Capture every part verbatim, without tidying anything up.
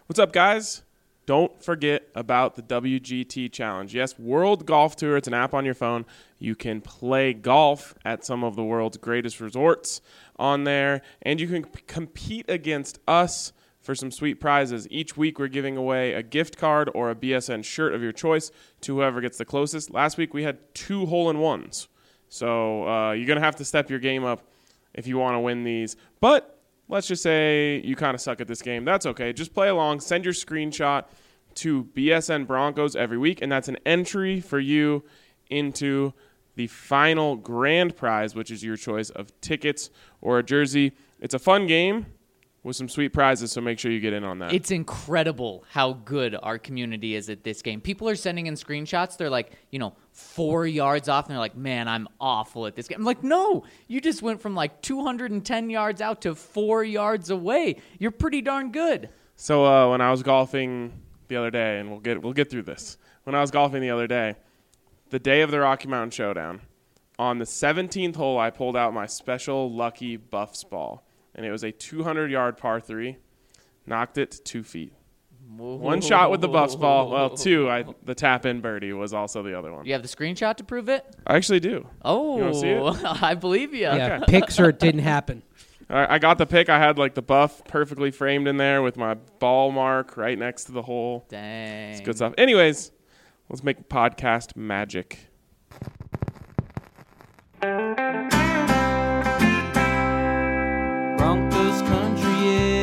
What's up, guys? Don't forget about the W G T Challenge. Yes, World Golf Tour. It's an app on your phone. You can play golf at some of the world's greatest resorts on there, and you can p- compete against us for some sweet prizes. Each week, we're giving away a gift card or a B S N shirt of your choice to whoever gets the closest. Last week, we had two hole-in-ones. So uh, you're going to have to step your game up if you want to win these. But let's just say you kind of suck at this game. That's okay. Just play along. Send your screenshot to B S N Broncos every week, and that's an entry for you into the final grand prize, which is your choice of tickets or a jersey. It's a fun game with some sweet prizes, so make sure you get in on that. It's incredible how good our community is at this game. People are sending in screenshots. They're like, you know, four yards off, and they're like, man, I'm awful at this game. I'm like, no, you just went from like two hundred ten yards out to four yards away. You're pretty darn good. So uh, when I was golfing the other day, and we'll get we'll get through this. When I was golfing the other day, the day of the Rocky Mountain Showdown, on the seventeenth hole, I pulled out my special lucky Buffs ball. And it was a two hundred yard par three. Knocked it two feet. Whoa. One shot with the Buffs ball. Well, two. I, the tap-in birdie was also the other one. You have the screenshot to prove it? I actually do. Oh, you want to see it? I believe you. Yeah, Okay. pics or it didn't happen. All right, I got the pic. I had like the Buff perfectly framed in there with my ball mark right next to the hole. Dang. It's good stuff. Anyways, let's make podcast magic. Broncos country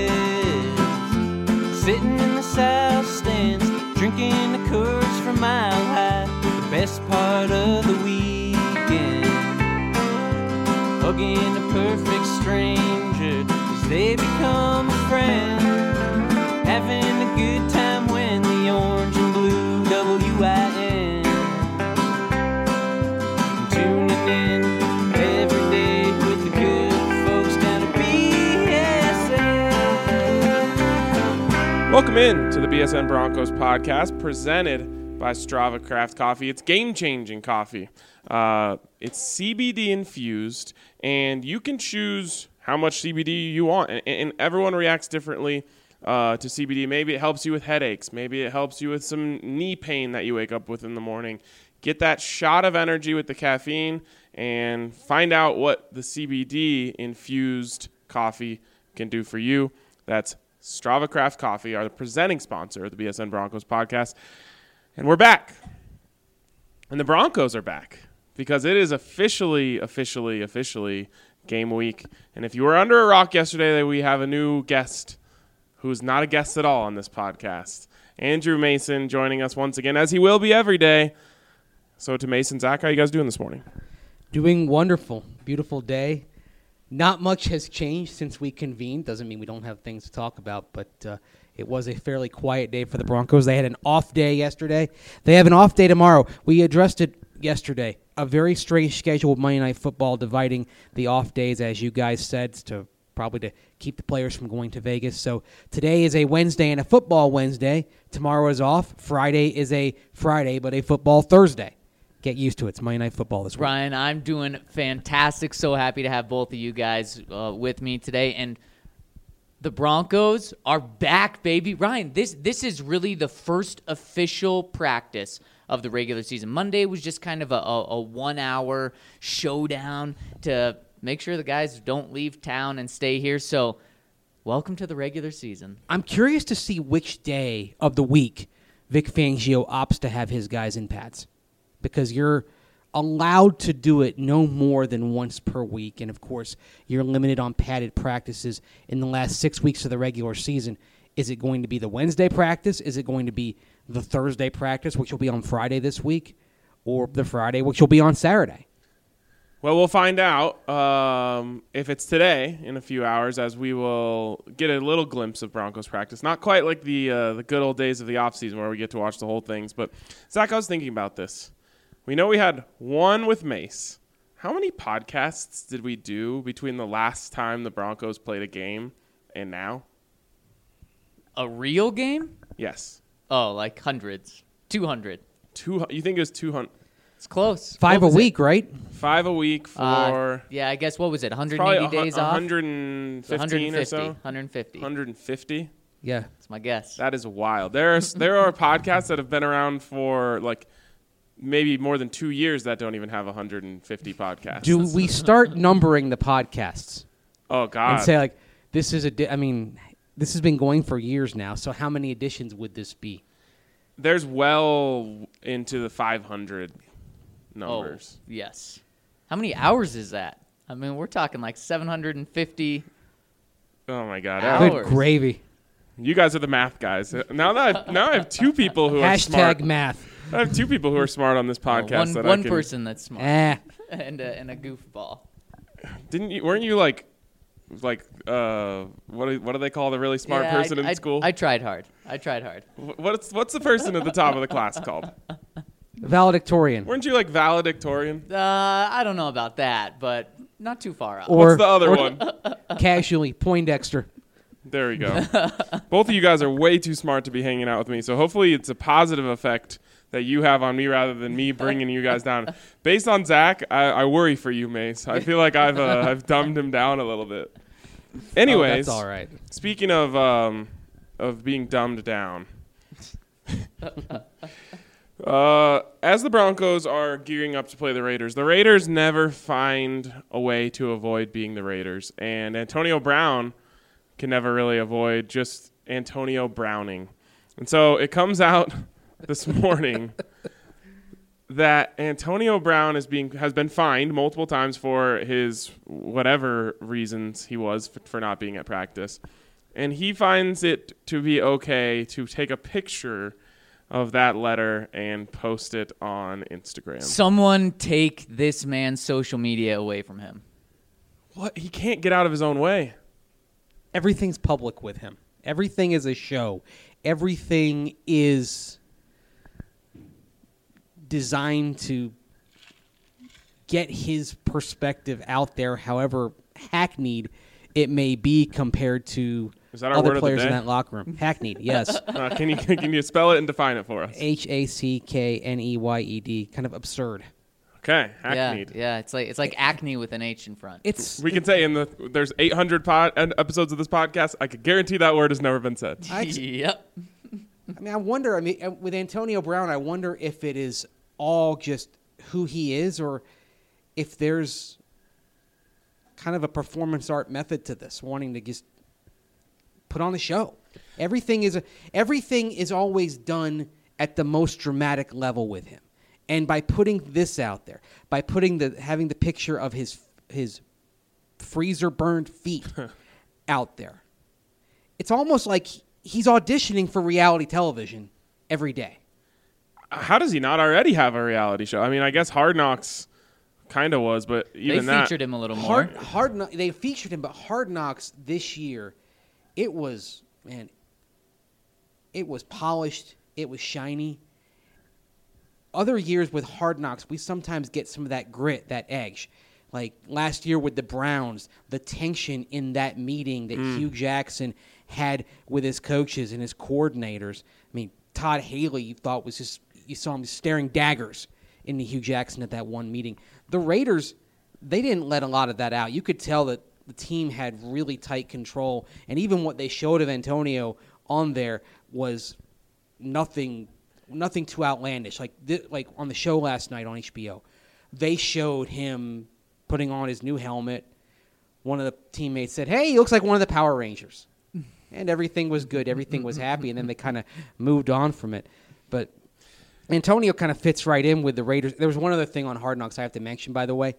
is sitting in the south stands, drinking the Coors from Mile High. The best part of the weekend, hugging a perfect stranger as they become a friend, having a good time when the orange and blue W I N tuning in every day with the good folks down at B S N. Welcome in to the B S N Broncos podcast presented by Strava Craft Coffee. It's game-changing coffee. Uh, it's C B D infused, and you can choose how much C B D you want, and, and everyone reacts differently uh, to C B D. Maybe it helps you with headaches. Maybe it helps you with some knee pain that you wake up with in the morning. Get that shot of energy with the caffeine and find out what the C B D infused coffee can do for you. That's Strava Craft Coffee, our presenting sponsor of the B S N Broncos podcast. And we're back. And the Broncos are back because it is officially, officially, officially game week. And if you were under a rock yesterday, we have a new guest who's not a guest at all on this podcast. Andrew Mason joining us once again, as he will be every day. So to Mason, Zach, how you guys doing this morning? Doing wonderful. Beautiful day. Not much has changed since we convened. Doesn't mean we don't have things to talk about, but uh, it was a fairly quiet day for the Broncos. They had an off day yesterday. They have an off day tomorrow. We addressed it yesterday. A very strange schedule with Monday Night Football, dividing the off days, as you guys said, to probably to keep the players from going to Vegas. So today is a Wednesday and a football Wednesday. Tomorrow is off. Friday is a Friday, but a football Thursday. Get used to it. It's Monday Night Football this week. Ryan, I'm doing fantastic. So happy to have both of you guys uh, with me today. And the Broncos are back, baby. Ryan, this this is really the first official practice of the regular season. Monday was just kind of a, a, a one-hour showdown to make sure the guys don't leave town and stay here. So welcome to the regular season. I'm curious to see which day of the week Vic Fangio opts to have his guys in pads, because you're allowed to do it no more than once per week. And, of course, you're limited on padded practices in the last six weeks of the regular season. Is it going to be the Wednesday practice? Is it going to be the Thursday practice, which will be on Friday this week, or the Friday, which will be on Saturday? Well, we'll find out um, if it's today in a few hours, as we will get a little glimpse of Broncos practice. Not quite like the uh, the good old days of the offseason where we get to watch the whole things. But, Zach, I was thinking about this. We know we had one with Mace. How many podcasts did we do between the last time the Broncos played a game and now? A real game? Yes. Oh, like hundreds. two hundred. Two. You think it was two hundred? It's close. Five What a was week, it? right? Five a week for Uh, yeah, I guess, what was it, one hundred eighty probably days a, off? one hundred fifteen one hundred fifty. or so. one hundred fifty. one hundred fifty. Yeah. That's my guess. That is wild. There's there are podcasts that have been around for like maybe more than two years that don't even have one hundred fifty podcasts. Do we start numbering the podcasts Oh God. and say like this is a? Di- I mean, this has been going for years now. So how many editions would this be? There's well into the five hundred numbers. Oh, yes. How many hours is that? I mean, we're talking like seven hundred fifty. Oh, my God. Hours. Good gravy. You guys are the math guys. Now that I've, now I have two people who are smart. Hashtag math. I have two people who are smart on this podcast. one that one I can, person that's smart Eh. and, a, and a goofball. Didn't you? Weren't you like, like uh, what do, what do they call the really smart Yeah, person I, in I, school? I tried hard. I tried hard. Wh- what's what's the person at the top of the class called? Valedictorian. Weren't you like valedictorian? Uh, I don't know about that, but not too far out. Or What's the other or one? Casually, Poindexter. There we go. Both of you guys are way too smart to be hanging out with me, so hopefully it's a positive effect that you have on me rather than me bringing you guys down. Based on Zach, I, I worry for you, Mace. I feel like I've uh, I've dumbed him down a little bit. Anyways, Oh, that's all right. speaking of um, of being dumbed down, uh, as the Broncos are gearing up to play the Raiders, the Raiders never find a way to avoid being the Raiders, and Antonio Brown can never really avoid just Antonio Browning. And so it comes out this morning that Antonio Brown is being has been fined multiple times for his whatever reasons he was for, for not being at practice. And he finds it to be okay to take a picture of that letter and post it on Instagram. Someone take this man's social media away from him. What? He can't get out of his own way. Everything's public with him. Everything is a show. Everything is designed to get his perspective out there, however hackneyed it may be compared to Is that our other word of the players in day? that locker room. Hackneyed, yes. Uh, can you can you spell it and define it for us? H A C K N E Y E D. Kind of absurd. Okay, hackneyed. Yeah, yeah. It's like it's like acne with an H in front. It's We can say in the there's eight hundred pod, episodes of this podcast. I could guarantee that word has never been said. I ex- yep. I mean, I wonder. I mean, uh, with Antonio Brown, I wonder if it is all just who he is, or if there's kind of a performance art method to this, wanting to just put on a show. Everything is a, everything is always done at the most dramatic level with him, and by putting this out there, by putting the having the picture of his his freezer burned feet out there, it's almost like he's auditioning for reality television every day. How does he not already have a reality show? I mean, I guess Hard Knocks kind of was, but They even that. featured him a little more. Hard, hard, Kno- they featured him, but Hard Knocks this year, it was man, it was polished, it was shiny. Other years with Hard Knocks, we sometimes get some of that grit, that edge. Like last year with the Browns, the tension in that meeting that Mm. Hugh Jackson had with his coaches and his coordinators. I mean, Todd Haley, you thought was just you saw him staring daggers into Hugh Jackson at that one meeting. The Raiders, they didn't let a lot of that out. You could tell that the team had really tight control, and even what they showed of Antonio on there was nothing, nothing too outlandish. Like th- like on the show last night on H B O, they showed him putting on his new helmet. One of the teammates said, "Hey, he looks like one of the Power Rangers," and everything was good. Everything was happy, and then they kind of moved on from it. But Antonio kind of fits right in with the Raiders. There was one other thing on Hard Knocks I have to mention, by the way.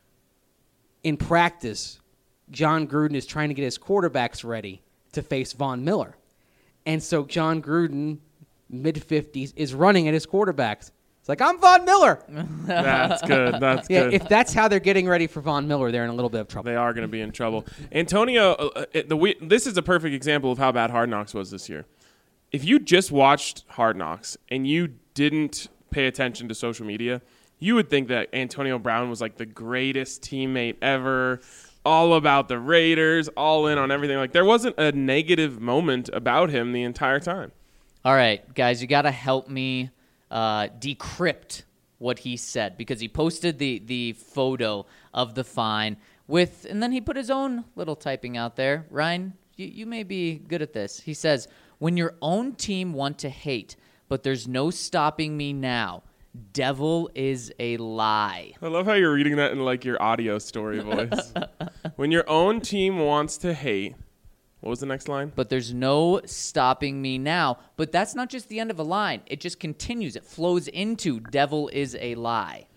In practice, John Gruden is trying to get his quarterbacks ready to face Von Miller. And so John Gruden, mid-fifties, is running at his quarterbacks. It's like, I'm Von Miller. That's good. That's Yeah, good. if that's how they're getting ready for Von Miller, they're in a little bit of trouble. They are going to be in trouble. Antonio, uh, uh, the we, this is a perfect example of how bad Hard Knocks was this year. If you just watched Hard Knocks and you didn't pay attention to social media, you would think that Antonio Brown was like the greatest teammate ever, all about the Raiders, all in on everything. Like there wasn't a negative moment about him the entire time. All right, guys, you got to help me uh, decrypt what he said, because he posted the, the photo of the fine with, and then he put his own little typing out there. Ryan, you, you may be good at this. He says, when your own team want to hate, but there's no stopping me now. Devil is a lie. I love how you're reading that in like your audio story voice. When your own team wants to hate, what was the next line? But there's no stopping me now. But that's not just the end of a line. It just continues. It flows into devil is a lie.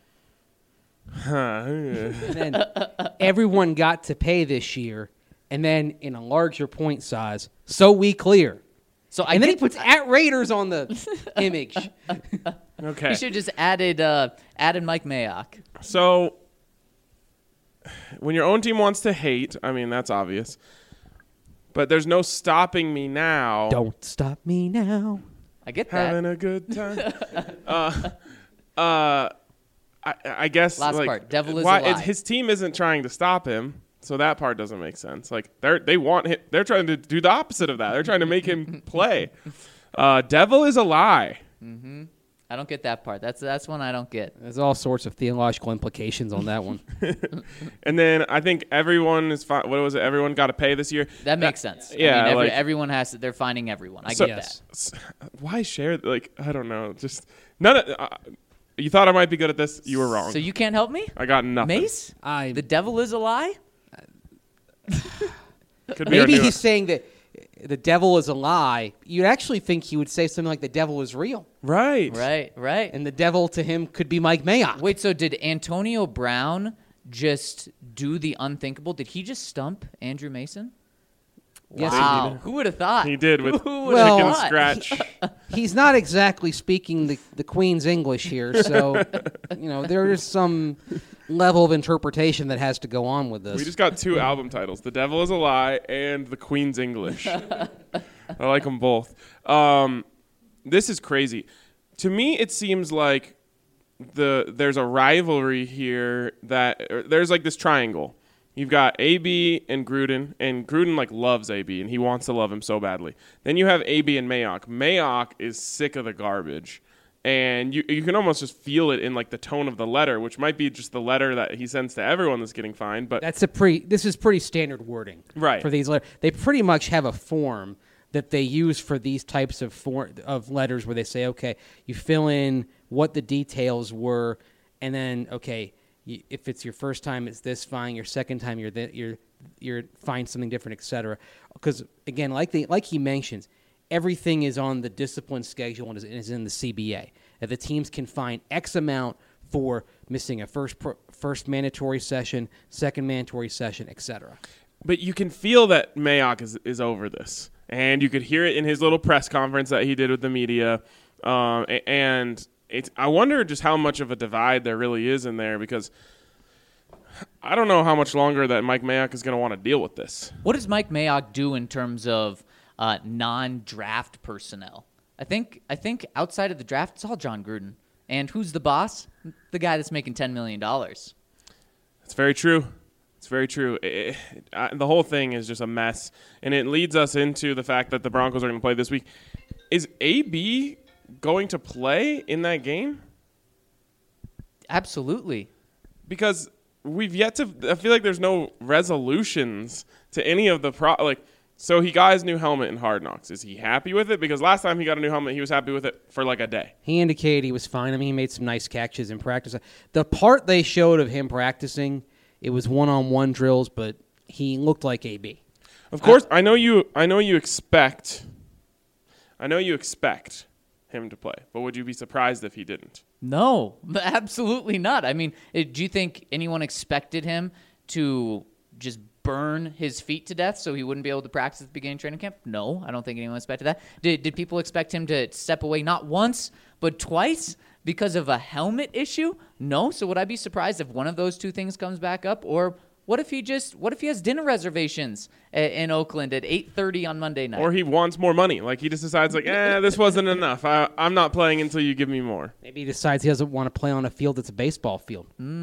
And then everyone got to pay this year, and then in a larger point size, so we clear. So I and then he get- puts at Raiders on the image. Okay. He should just added uh, added Mike Mayock. So, when your own team wants to hate, I mean, that's obvious. But there's no stopping me now. Don't stop me now. I get that. Having a good time. uh, uh, I, I guess. Last like, part. Devil is why, a lie. it- His team isn't trying to stop him, so that part doesn't make sense. Like they're they want him, they're trying to do the opposite of that. They're trying to make him play. Uh, devil is a lie. I don't get that part. That's that's one I don't get. There's all sorts of theological implications on that one. And then I think everyone is fi- what was it? Everyone got to pay this year. That makes sense. yeah, I mean, every, like- everyone has to. They're finding everyone. I So- get Yes. S- Why share? Like I don't know. Just none. Of, uh, you thought I might be good at this. You were that. wrong. So you can't help me, I got nothing. Mace? I The devil is a lie. Could be our maybe new- he's saying that the devil is a lie. You'd actually think he would say something like the devil is real, right. Right, right. and the devil to him could be Mike Mayock. Wait, so did Antonio Brown just do the unthinkable? Did he just stump Andrew Mason? Yes, he wow. did. Who would have thought? He did with Who would've Well, chicken thought? scratch. He's not exactly speaking the, the Queen's English here, so you know there is some level of interpretation that has to go on with this. We just got two album titles: "The Devil Is a Lie" and "The Queen's English." I like them both. Um, this is crazy. To me, it seems like the there's a rivalry here that or there's like this triangle. You've got A B and Gruden, and Gruden like loves A B, and he wants to love him so badly. Then you have A B and Mayock. Mayock is sick of the garbage, and you you can almost just feel it in like the tone of the letter, which might be just the letter that he sends to everyone that's getting fined. But That's a pretty. This is pretty standard wording, Right. For these letters, they pretty much have a form that they use for these types of for, of letters, where they say, okay, you fill in what the details were, and then okay, you, if it's your first time, it's this fine. Your second time, you're th- you're you're find something different, et cetera. Because again, like the like he mentions, everything is on the discipline schedule and is, is in the C B A. That the teams can find X amount for missing a first pro, first mandatory session, second mandatory session, et cetera. But you can feel that Mayock is, is over this. And you could hear it in his little press conference that he did with the media. Um, a- and it's, I wonder just how much of a divide there really is in there, because I don't know how much longer that Mike Mayock is going to want to deal with this. What does Mike Mayock do in terms of uh, non-draft personnel? I think I think outside of the draft, it's all John Gruden. And who's the boss? The guy that's making ten million dollars. It's very true. It's very true. It, it, uh, the whole thing is just a mess. And it leads us into the fact that the Broncos are going to play this week. Is A B going to play in that game? Absolutely. Because we've yet to I feel like there's no resolutions to any of the pro like so he got his new helmet in Hard Knocks. Is he happy with it? Because last time he got a new helmet, he was happy with it for like a day. He indicated he was fine. I mean, he made some nice catches in practice. The part they showed of him practicing, it was one-on-one drills, but he looked like A B. Of course, I know you I know you expect I know you expect him to play, but would you be surprised if he didn't? No, absolutely not. I mean, eh, do you think anyone expected him to just burn his feet to death so he wouldn't be able to practice at the beginning of training camp? No, I don't think anyone expected that. Did, did people expect him to step away not once, but twice because of a helmet issue? No. So would I be surprised if one of those two things comes back up? Or what if he just, what if he has dinner reservations a- in Oakland at eight thirty on Monday night? Or he wants more money. Like he just decides like, eh, this wasn't enough. I, I'm not playing until you give me more. Maybe he decides he doesn't want to play on a field that's a baseball field.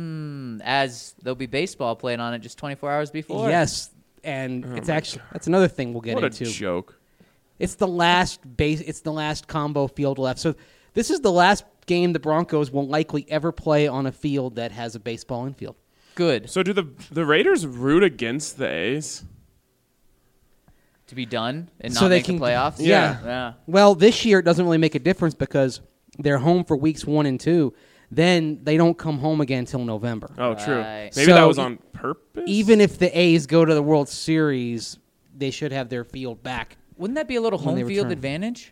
As there'll be baseball playing on it just twenty-four hours before. Yes, and it's actually that's another thing we'll get What a into. joke. It's the last base. It's the last combo field left. So this is the last game the Broncos will likely ever play on a field that has a baseball infield. Good. So do the the Raiders root against the A's? to be done and not So they make can- the playoffs. yeah. yeah. Well, this year it doesn't really make a difference because they're home for weeks one and two. Then they don't come home again until November. Oh, true. Right. Maybe So that was e- on purpose. Even if the A's go to the World Series, they should have their field back. Wouldn't that be a little When they home field return. advantage?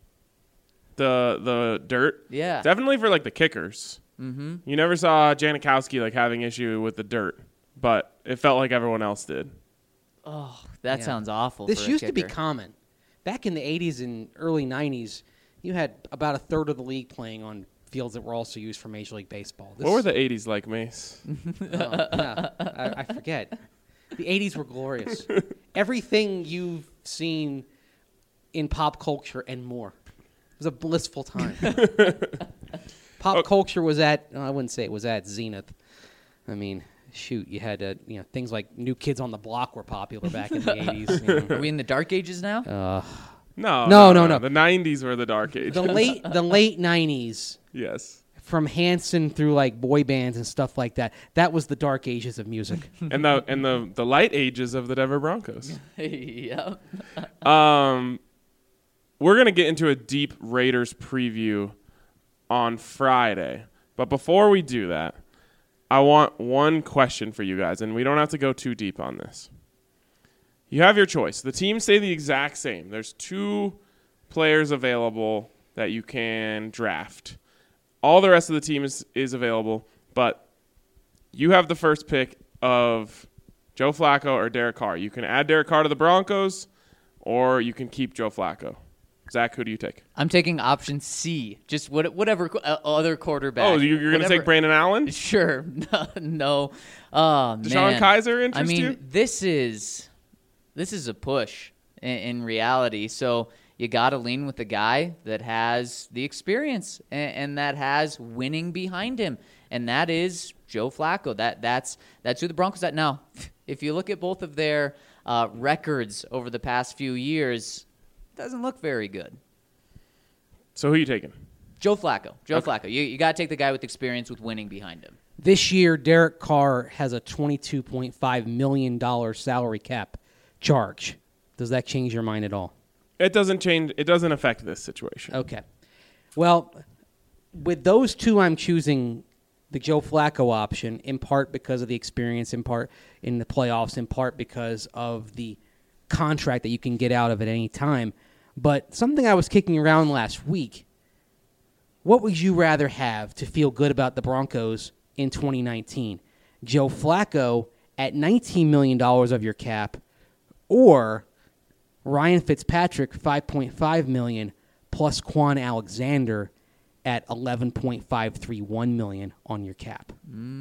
the the dirt, Yeah. definitely for like the kickers. Mm-hmm. You never saw Janikowski like having issue with the dirt, but it felt like everyone else did. Oh, that Yeah. sounds awful. This for a used to be kicker. common. Back in the eighties and early nineties, you had about a third of the league playing on fields that were also used for Major League Baseball. This, What were the eighties like, Mace? oh, yeah, I, I forget. The eighties were glorious. Everything you've seen in pop culture and more. It was a blissful time. Pop Oh. culture was at, oh, I wouldn't say it was at zenith. I mean, shoot, you had uh, you know things like New Kids on the Block were popular back in the eighties. You know. Are we in the dark ages now? Uh, No, No, no, no. The nineties were the dark ages. the late the late nineties, yes, from Hanson through like boy bands and stuff like that. That was the dark ages of music. and the and the the light ages of the Denver Broncos. yeah. Um, we're gonna get into a deep Raiders preview on Friday, but before we do that, I want one question for you guys, and we don't have to go too deep on this. You have your choice. The teams stay the exact same. There's two players available that you can draft. All the rest of the team is, is available, but you have the first pick of Joe Flacco or Derek Carr. You can add Derek Carr to the Broncos, or you can keep Joe Flacco. Zach, who do you take? I'm taking option C. Just what, whatever qu- uh, other quarterback. Oh, you- you're going to Whatever- take Brandon Allen? Sure. no. Oh, Deshaun man. Kaiser I interest mean, you? this is this is a push in, in reality. So you got to lean with the guy that has the experience and, and that has winning behind him, and that is Joe Flacco. That that's that's who the Broncos at now. If you look at both of their uh, records over the past few years, it doesn't look very good. So who are you taking? Joe Flacco. Joe Okay. Flacco. You you got to take the guy with experience with winning behind him. This year, Derek Carr has a twenty-two point five million dollars salary cap charge. Does that change your mind at all? It doesn't change. It doesn't affect this situation. Okay. Well, with those two, I'm choosing the Joe Flacco option, in part because of the experience, in part in the playoffs, in part because of the contract that you can get out of at any time. But something I was kicking around last week, what would you rather have to feel good about the Broncos in twenty nineteen? Joe Flacco at nineteen million dollars of your cap, or Ryan Fitzpatrick, five point five million dollars, plus Quan Alexander at eleven point five three one million dollars on your cap?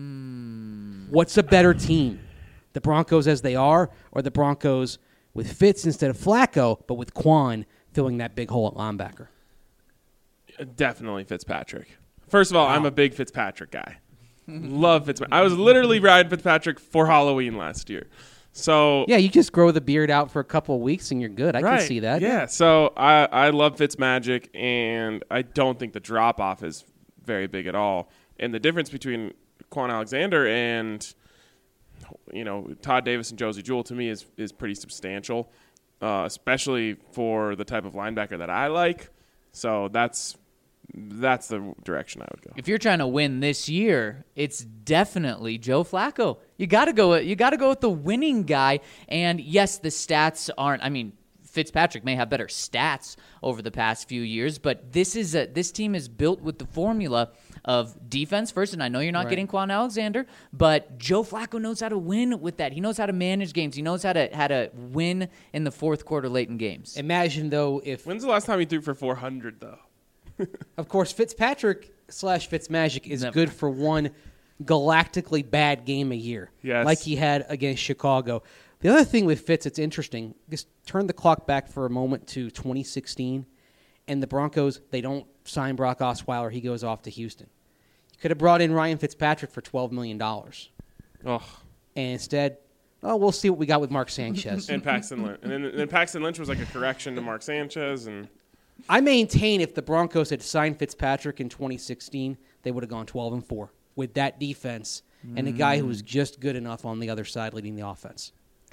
Mm. What's a better team? The Broncos as they are, or the Broncos with Fitz instead of Flacco, but with Quan filling that big hole at linebacker? Definitely Fitzpatrick. First of all, I'm a big Fitzpatrick guy. Love Fitzpatrick. I was literally riding Fitzpatrick for Halloween last year. So Yeah, you just grow the beard out for a couple of weeks and you're good. I right, can see that. Yeah. So I I love Fitzmagic, and I don't think the drop off is very big at all. And the difference between Quan Alexander and you know Todd Davis and Josie Jewell to me is is pretty substantial, uh, especially for the type of linebacker that I like. So that's that's the direction I would go. If you're trying to win this year, it's definitely Joe Flacco. You got to go. You got to go with the winning guy. And yes, the stats aren't. I mean, Fitzpatrick may have better stats over the past few years, but this is a this team is built with the formula of defense first. And I know you're not Right. getting Quan Alexander, but Joe Flacco knows how to win with that. He knows how to manage games. He knows how to how to win in the fourth quarter, late in games. Imagine, though, if, When's the last time he threw for four hundred though? of course, Fitzpatrick slash Fitzmagic is Never. good for one galactically bad game a year, Yes. like he had against Chicago. The other thing with Fitz, it's interesting. Just turn the clock back for a moment to twenty sixteen, and the Broncos, they don't sign Brock Osweiler. He goes off to Houston. You could have brought in Ryan Fitzpatrick for twelve million dollars. Oh, And instead, oh, we'll see what we got with Mark Sanchez. and Paxton Lynch, and then, and then Paxton Lynch was like a correction to Mark Sanchez, and I maintain if the Broncos had signed Fitzpatrick in twenty sixteen, they would have gone twelve and four with that defense and a guy who was just good enough on the other side leading the offense.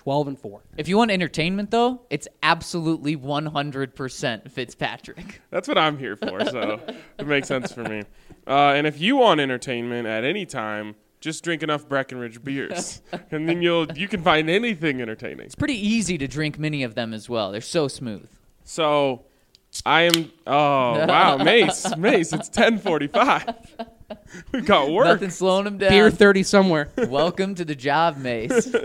twelve and four. If you want entertainment, though, it's absolutely one hundred percent Fitzpatrick. That's what I'm here for, so it makes sense for me. Uh, and if you want entertainment at any time, just drink enough Breckenridge beers, and then you'll you can find anything entertaining. It's pretty easy to drink many of them as well. They're so smooth. So, I am. Oh wow, Mace, Mace! It's ten forty-five. We've got work. Nothing slowing them down. Beer thirty somewhere. Welcome to the job, Mace.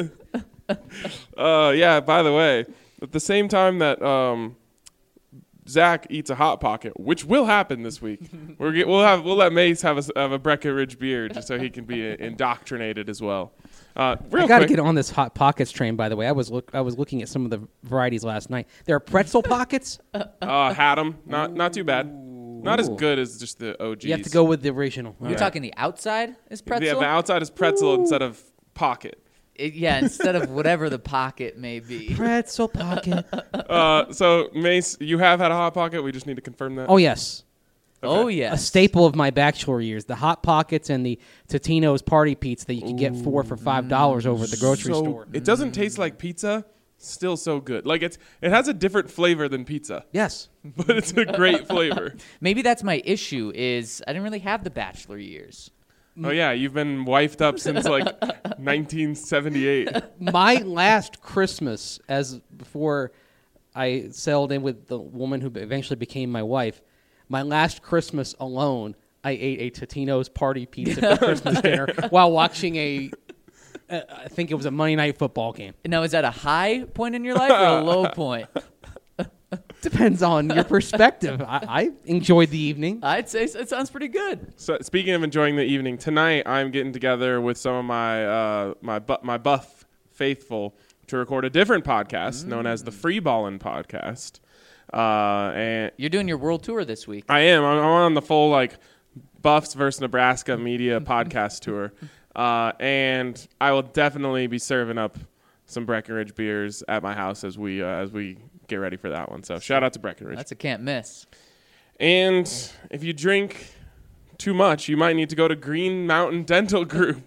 Uh, yeah. By the way, at the same time that um, Zach eats a hot pocket, which will happen this week, we're get, we'll have we'll let Mace have a have a Breckenridge beer just so he can be indoctrinated as well. Uh, real I got to quick, get on this Hot Pockets train, by the way. I was look I was looking at some of the varieties last night. There are pretzel pockets. uh, had them. Not not too bad. Not as Ooh. good as just the O Gs. You have to go with the original. You're Right. talking the outside is pretzel? Yeah, the outside is pretzel instead of pocket. It- yeah, instead of whatever the pocket may be. Pretzel pocket. Uh, so Mace, you have had a hot pocket. We just need to confirm that. Oh, yes. Oh, Okay. yeah. A staple of my bachelor years. The Hot Pockets and the Totino's Party Pizza that you can get four for five dollars over at the grocery So store. it doesn't taste like pizza. Still so good. Like it's it has a different flavor than pizza, Yes. but it's a great flavor. Maybe that's my issue is I didn't really have the bachelor years. Oh yeah, you've been wifed up since like nineteen seventy-eight. My last Christmas, as before I settled in with the woman who eventually became my wife, my last Christmas alone, I ate a Totino's Party Pizza for Christmas dinner while watching a, uh, I think it was a Monday Night Football game. Now, is that a high point in your life or a low point? Depends on your perspective. I, I enjoyed the evening. I'd say so. It sounds pretty good. So speaking of enjoying the evening, tonight I'm getting together with some of my uh, my bu- my buff faithful to record a different podcast known as the Free Ballin' Podcast. Uh, and You're doing your world tour this week. I am. I'm, I'm on the full like Buffs versus Nebraska media podcast tour, uh, and I will definitely be serving up some Breckenridge beers at my house as we uh, as we get ready for that one. So shout out to Breckenridge. That's a can't miss. And if you drink too much, you might need to go to Green Mountain Dental Group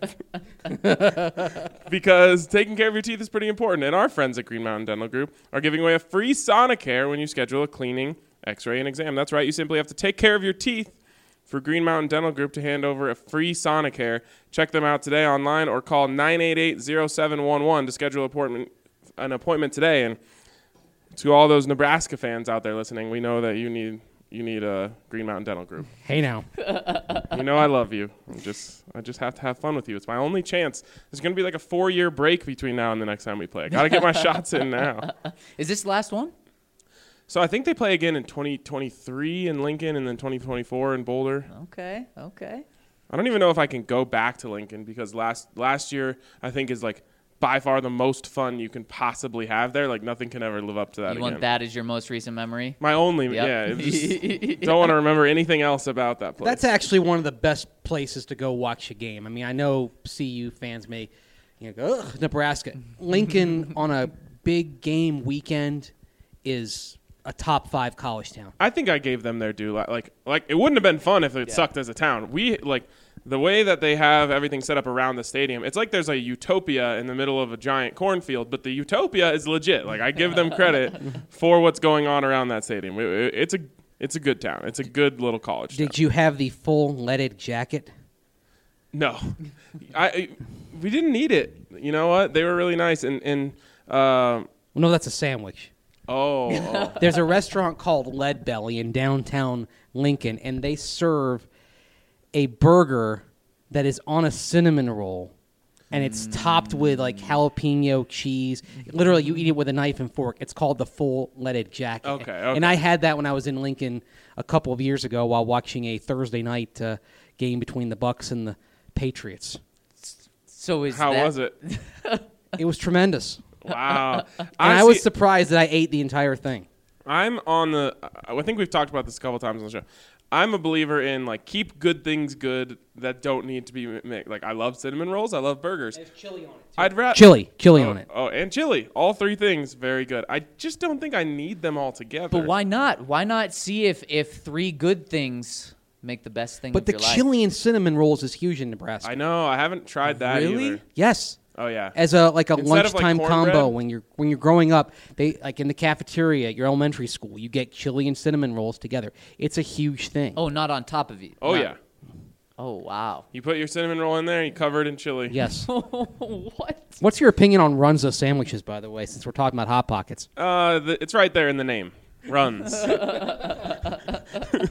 because taking care of your teeth is pretty important. And our friends at Green Mountain Dental Group are giving away a free Sonicare when you schedule a cleaning, x-ray, and exam. That's right. You simply have to take care of your teeth for Green Mountain Dental Group to hand over a free Sonicare. Check them out today online or call nine eight eight, zero seven one one to schedule appointment, an appointment today. And to all those Nebraska fans out there listening, we know that you need you need a Green Mountain Dental Group. Hey now. You know I love you. I'm just I just have to have fun with you. It's my only chance. There's going to be like a four-year break between now and the next time we play. I got to get my shots in now. Is this the last one? So I think they play again in twenty twenty-three in Lincoln and then twenty twenty-four in Boulder. Okay, okay. I don't even know if I can go back to Lincoln because last last year I think is like by far the most fun you can possibly have there. Like nothing can ever live up to that You again. want that as your most recent memory? My only, Yep. yeah. It was just, don't want to remember anything else about that place. That's actually one of the best places to go watch a game. I mean, I know C U fans may you know, go, ugh, Nebraska. Lincoln on a big game weekend is a top five college town. I think I gave them their due. Like, like, like it wouldn't have been fun if it Yeah. sucked as a town. We like the way that they have everything set up around the stadium. It's like there's a utopia in the middle of a giant cornfield, but the utopia is legit. Like I give them credit for what's going on around that stadium. It, it, it's a it's a good town. It's a good little college town. Did you have the full leaded jacket? No, I, I we didn't need it. You know what? They were really nice and and uh, No, that's a sandwich. oh, oh. There's a restaurant called Lead Belly in downtown Lincoln, and they serve a burger that is on a cinnamon roll, and it's topped with like jalapeno cheese. Literally, you eat it with a knife and fork. It's called the full leaded jacket. Okay, okay. And I had that when I was in Lincoln a couple of years ago while watching a Thursday night uh, game between the Bucks and the Patriots. So is How that, was it? It was tremendous, Wow. and I was Honestly, surprised that I ate the entire thing. I'm on the. I think we've talked about this a couple times on the show. I'm a believer in like keep good things good that don't need to be mixed. Like I love cinnamon rolls. I love burgers. There's chili on it. I'd rather Chili, chili oh, on it. Oh, and chili. All three things very good. I just don't think I need them all together. But why not? Why not see if if three good things make the best thing But of the your life? chili and cinnamon rolls is huge in Nebraska. I know. I haven't tried that Really? either. Yes. Oh yeah. As a like a Instead of, like, lunchtime cornbread? combo when you're when you're growing up, they like in the cafeteria at your elementary school, you get chili and cinnamon rolls together. It's a huge thing. Oh, not on top of it. Oh Not- yeah. Oh wow. You put your cinnamon roll in there, you cover it in chili. Yes. What? What's your opinion on Runza sandwiches, by the way, since we're talking about Hot Pockets? Uh, the, it's right there in the name. Runs. uh,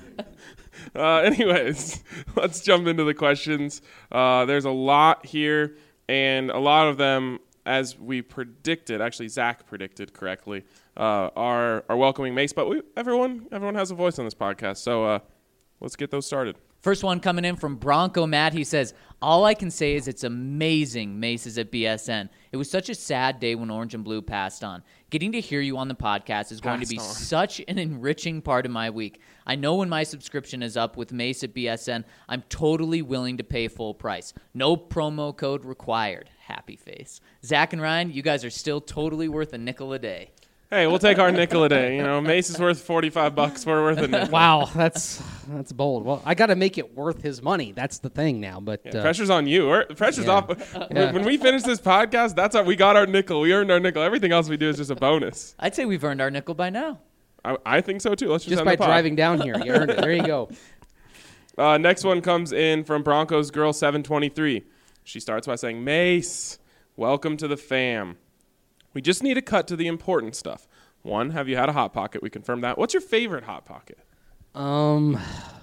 anyways, let's jump into the questions. Uh, there's a lot here, and a lot of them, as we predicted, actually Zach predicted correctly, uh, are are welcoming Mace. But we, everyone, everyone has a voice on this podcast, so uh, let's get those started. First one coming in from Bronco Matt. He says, all I can say is it's amazing Mace is at B S N. It was such a sad day when Orange and Blue passed on. Getting to hear you on the podcast is going Passed to be on. such an enriching part of my week. I know when my subscription is up with Mace at B S N, I'm totally willing to pay full price. No promo code required. Happy face. Zach and Ryan, you guys are still totally worth a nickel a day. Hey, we'll take our nickel a day. You know, Mace is worth forty-five bucks. We're worth a nickel. Wow, that's that's bold. Well, I got to make it worth his money. That's the thing now. But Yeah, uh, pressure's on you. We're, pressure's Yeah. off. Yeah. When we finish this podcast, that's our, we got our nickel. We earned our nickel. Everything else we do is just a bonus. I'd say we've earned our nickel by now. I, I think so too. Let's just, just end by the pod. driving down here, you earned it. There you go. Uh, next one comes in from Broncos Girl seven twenty-three. She starts by saying, Mace, welcome to the fam. We just need to cut to the important stuff. One, have you had a Hot Pocket? We confirmed that. What's your favorite Hot Pocket? Um,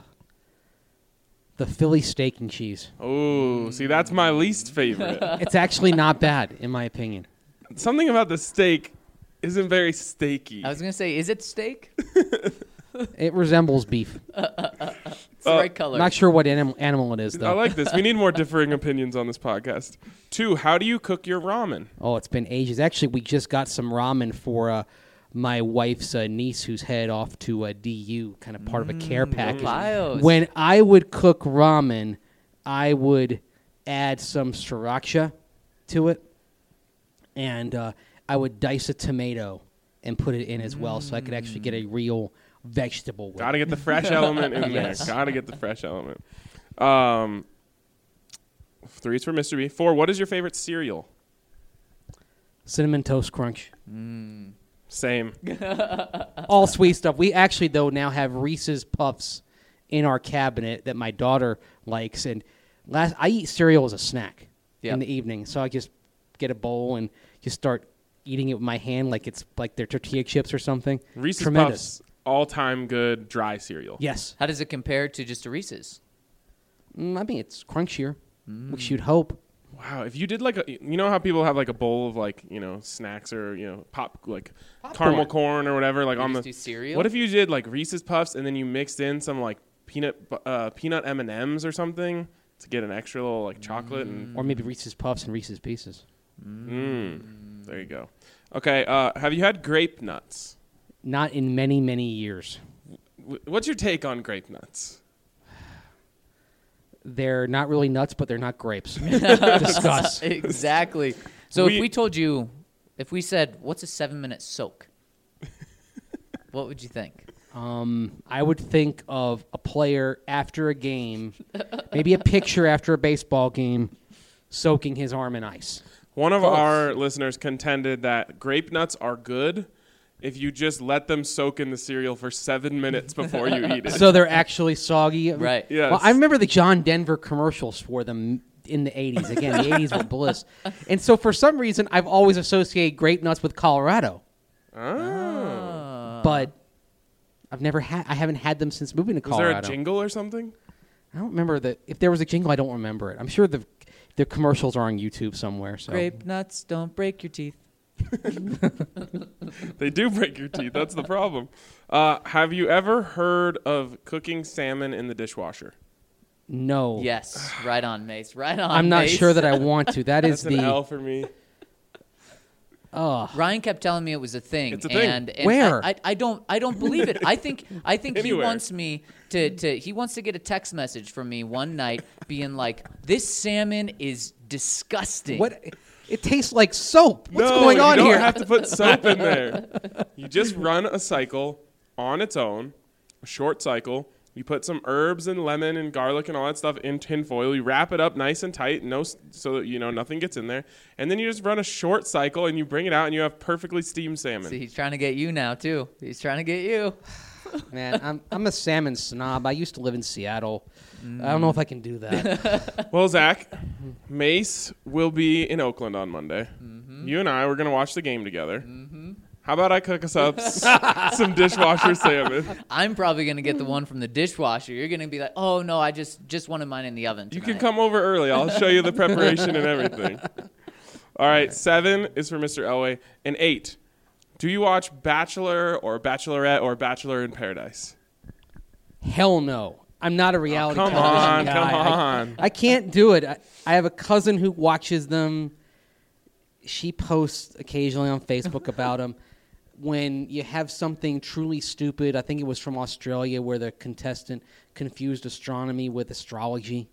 the Philly steak and cheese. Oh, see, that's my least favorite. It's actually not bad, in my opinion. Something about the steak isn't very steaky. I was going to say, is it steak? It resembles beef. It's the Uh, right color. Not sure what anim- animal it is, I though. like this. We need more differing opinions on this podcast. Two, how do you cook your ramen? Oh, it's been ages. Actually, we just got some ramen for uh, my wife's uh, niece who's head off to uh, D U, kind of part of a care package. Bios. When I would cook ramen, I would add some sriracha to it, and uh, I would dice a tomato and put it in as well, so I could actually get a real vegetable with Got to it. get the fresh element in Yes. there. Got to get the fresh element. Um, three is for Mister B. Four, what is your favorite cereal? Cinnamon Toast Crunch. Same. All sweet stuff. We actually, though, now have Reese's Puffs in our cabinet that my daughter likes. And last, I eat cereal as a snack Yep. in the evening. So I just get a bowl and just start eating it with my hand like it's like they're tortilla chips or something. Reese's Tremendous. Puffs, all-time good dry cereal. Yes. How does it compare to just a Reese's? Mm, I mean, it's crunchier, which you'd hope. Wow, if you did like a, you know how people have like a bowl of like, you know, snacks or, you know, pop, like caramel corn or whatever, like You on just the, do cereal? what if you did like Reese's Puffs and then you mixed in some like peanut, bu- uh, peanut M and M's or something to get an extra little like chocolate and, Or maybe Reese's Puffs and Reese's Pieces. mm, there you go. Okay, uh, have you had grape nuts? Not in many, many years. W- What's your take on grape nuts? They're not really nuts, but they're not grapes. Discuss. Exactly. So We- if we told you, if we said, what's a seven-minute soak? What would you think? Um, I would think of a player after a game, maybe a picture after a baseball game, soaking his arm in ice. One of Close. our listeners contended that grape nuts are good if you just let them soak in the cereal for seven minutes before you eat it. So they're actually soggy. Right. Yes. Well, I remember the John Denver commercials for them in the eighties. Again, the eighties were bliss. And so for some reason, I've always associated grape nuts with Colorado. Oh. But I've never had. I haven't had them since moving to Was there Colorado. a jingle or something? I don't remember the. If there was a jingle, I don't remember it. I'm sure the the commercials are on YouTube somewhere. So Grape nuts don't break your teeth. They do break your teeth. That's the problem. Uh, have you ever heard of cooking salmon in the dishwasher? no. Yes, right on, Mace. Right on. I'm not Mace. sure that I want to. That is That's an the. L for me. Oh, Ryan kept telling me it was a thing. It's a thing. And, and Where? I, I, I don't I don't believe it. I think I think he Anywhere. wants me to, to he wants to get a text message from me one night being like, this salmon is disgusting. what? It tastes like soap. What's no, going on you don't here? have to put soap in there. You just run a cycle on its own, a short cycle. You put some herbs and lemon and garlic and all that stuff in tin foil. You wrap it up nice and tight, no, so that you know nothing gets in there. And then you just run a short cycle and you bring it out and you have perfectly steamed salmon. See, he's trying to get you now too. He's trying to get you. Man, I'm I'm a salmon snob. I used to live in Seattle. Mm. I don't know if I can do that. Well, Zach, Mace will be in Oakland on Monday. Mm-hmm. You and I, we're going to watch the game together. Mm-hmm. How about I cook us up s- some dishwasher salmon? I'm probably going to get the one from the dishwasher. You're going to be like, oh, no, I just, just wanted mine in the oven tonight. You can come over early. I'll show you the preparation and everything. All right, seven is for Mister Elway. And eight, do you watch Bachelor or Bachelorette or Bachelor in Paradise? Hell no. I'm not a reality oh, come television on, guy. Come on, I, I can't do it. I, I have a cousin who watches them. She posts occasionally on Facebook about them. When you have something truly stupid, I think it was from Australia where the contestant confused astronomy with astrology.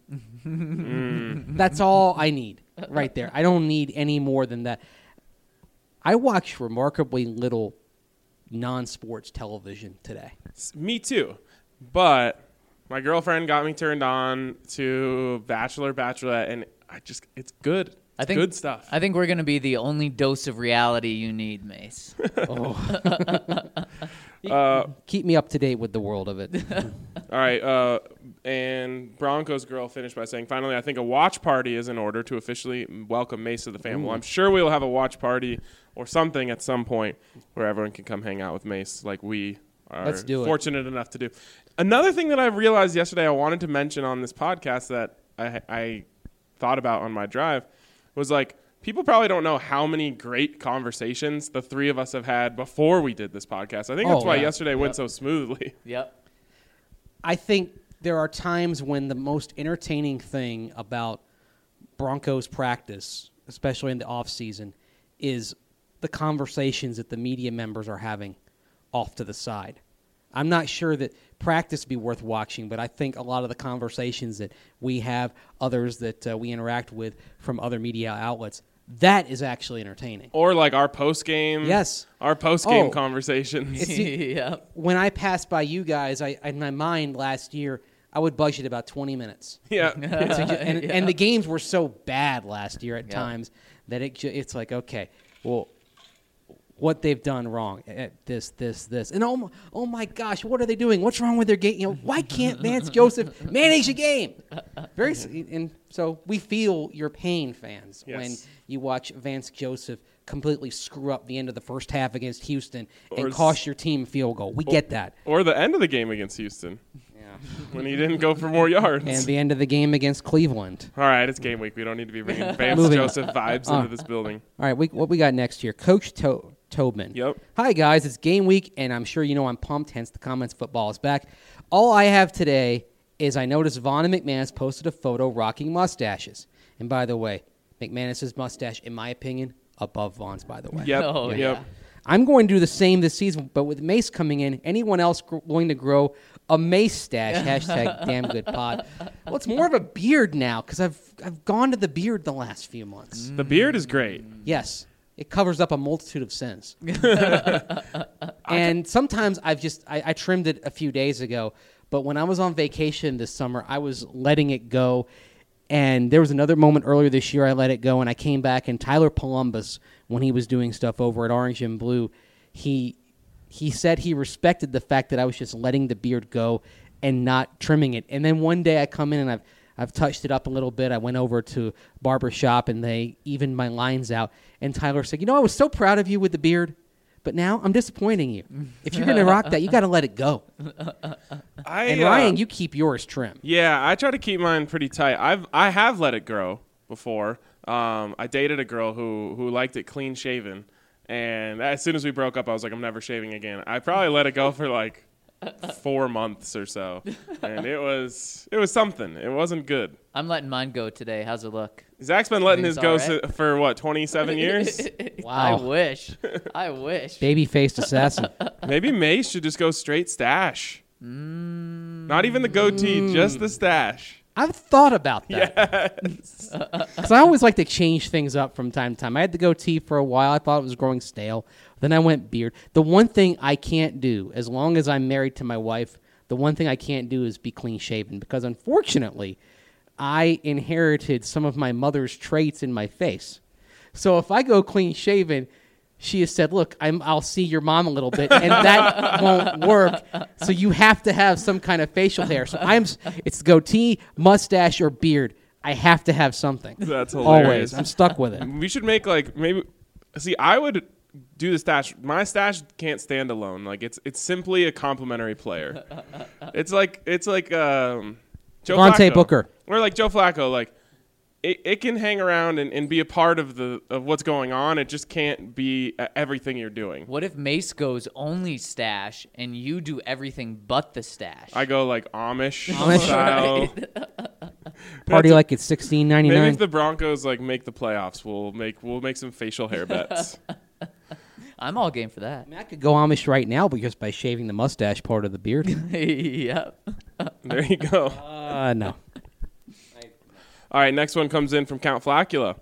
Mm. That's all I need right there. I don't need any more than that. I watch remarkably little non-sports television today. Me too. But my girlfriend got me turned on to Bachelor, Bachelorette, and I just it's good. It's I think, good stuff. I think we're going to be the only dose of reality you need, Mace. oh. uh, Keep me up to date with the world of it. All right. Uh, and Broncos girl finished by saying, finally, I think a watch party is in order to officially welcome Mace to the family. Well, I'm sure we'll have a watch party or something at some point where everyone can come hang out with Mace like we are Let's do it. fortunate enough to do. Another thing that I realized yesterday I wanted to mention on this podcast that I, I thought about on my drive was like, people probably don't know how many great conversations the three of us have had before we did this podcast. I think that's Oh, why yeah. yesterday Yep. went so smoothly. Yep. I think there are times when the most entertaining thing about Broncos practice, especially in the off season, is the conversations that the media members are having off to the side. I'm not sure that practice be worth watching, but I think a lot of the conversations that we have, others that uh, we interact with from other media outlets, that is actually entertaining. Or like our post game. Yes. Our post game Oh. conversations. It's the- Yep. When I passed by you guys, I in my mind last year, I would budget about twenty minutes. Yeah. So ju- and, Yeah. and the games were so bad last year at Yeah. times that it ju- it's like, okay, well, what they've done wrong at this, this, this. And oh my, oh my gosh, what are they doing? What's wrong with their game? You know, why can't Vance Joseph manage a game? Very s- And so we feel your pain, fans, Yes. when you watch Vance Joseph completely screw up the end of the first half against Houston Or and s- cost your team a field goal. We get that. Or the end of the game against Houston Yeah. when he didn't go for more yards. And the end of the game against Cleveland. All right, it's game week. We don't need to be bringing Vance Moving on. Joseph vibes Uh, into this building. All right, we, what we got next here? Coach to- Tobin. Yep. Hi, guys. It's game week, and I'm sure you know I'm pumped, hence the comments football is back. All I have today is I noticed Vaughn and McManus posted a photo rocking mustaches. And by the way, McManus's mustache, in my opinion, above Vaughn's, by the way. Yep. Oh, yep. yeah. I'm going to do the same this season, but with Mace coming in, anyone else gr- going to grow a Mace stash? Hashtag damn good pod. Well, it's more of a beard now because I've I've gone to the beard the last few months. The beard is great. Yes, it covers up a multitude of sins. And sometimes I've just I, I trimmed it a few days ago, but when I was on vacation this summer, I was letting it go. And there was another moment earlier this year I let it go, and I came back, and Tyler Columbus, when he was doing stuff over at Orange and Blue, he he said he respected the fact that I was just letting the beard go and not trimming it. And then one day I come in and I've I've touched it up a little bit. I went over to barber shop and they evened my lines out. And Tyler said, "You know, I was so proud of you with the beard, but now I'm disappointing you. If you're going to rock that, you got to let it go." I, And uh, Ryan, you keep yours trim. Yeah, I try to keep mine pretty tight. I've I have let it grow before. Um, I dated a girl who who liked it clean shaven, and as soon as we broke up, I was like, I'm never shaving again. I probably let it go for like four months or so, and it was it was something. It wasn't good. I'm letting mine go today. How's it look? Zach's been letting his Everything's go all right. si- for what twenty-seven years. I Wow. wish. I wish. Baby-faced assassin. Maybe Mace should just go straight stash. Not even the goatee, just the stash. I've thought about that. Because I always like to change things up from time to time. I had the goatee for a while. I thought it was growing stale. Then I went beard. The one thing I can't do, as long as I'm married to my wife, The one thing I can't do is be clean shaven because, unfortunately, I inherited some of my mother's traits in my face. So if I go clean shaven, she has said, look, I'm, I'll see your mom a little bit, and that won't work. So you have to have some kind of facial hair. So I'm, it's goatee, mustache, or beard. I have to have something. That's hilarious. Always. I'm stuck with it. We should make like maybe. See, I would do the stash. My stash can't stand alone. Like it's it's simply a complimentary player. It's like it's like um, Joe Devontae Flacco. Booker. Or like Joe Flacco. Like it, it can hang around and, and be a part of the of what's going on. It just can't be uh, everything you're doing. What if Mace goes only stash and you do everything but the stash? I go like Amish, Amish. style. Party That's a- like it's sixteen ninety Maybe nine. if the Broncos like make the playoffs, we'll make we'll make some facial hair bets. I'm all game for that. I mean, I could go Amish right now, but just by shaving the mustache part of the beard. Yep. There you go. uh, no. All right, next one comes in from Count Flacula.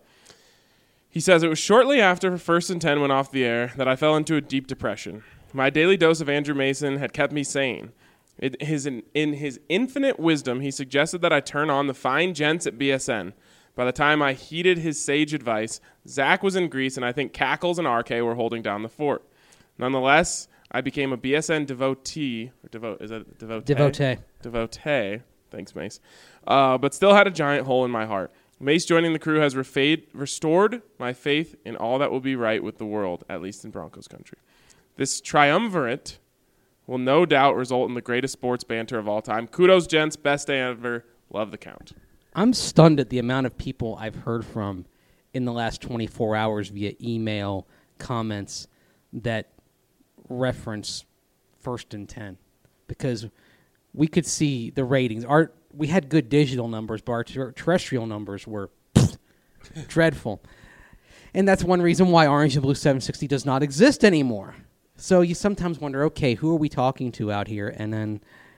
He says, it was shortly after First and Ten went off the air that I fell into a deep depression. My daily dose of Andrew Mason had kept me sane. It, his, in, in his infinite wisdom, he suggested that I turn on the fine gents at B S N. By the time I heeded his sage advice, Zach was in Greece, and I think Cackles and R K were holding down the fort. Nonetheless, I became a B S N devotee. Or devote, is that devotee? Devotee. Devotee. Thanks, Mace. Uh, but still had a giant hole in my heart. Mace joining the crew has refade, restored my faith in all that will be right with the world, at least in Broncos country. This triumvirate will no doubt result in the greatest sports banter of all time. Kudos, gents. Best day ever. Love the count. I'm stunned at the amount of people I've heard from in the last twenty-four hours via email, comments that reference First and Ten, because we could see the ratings. Our we had good digital numbers, but our ter- terrestrial numbers were dreadful, and that's one reason why Orange and Blue seven sixty does not exist anymore. So you sometimes wonder, okay, who are we talking to out here? And then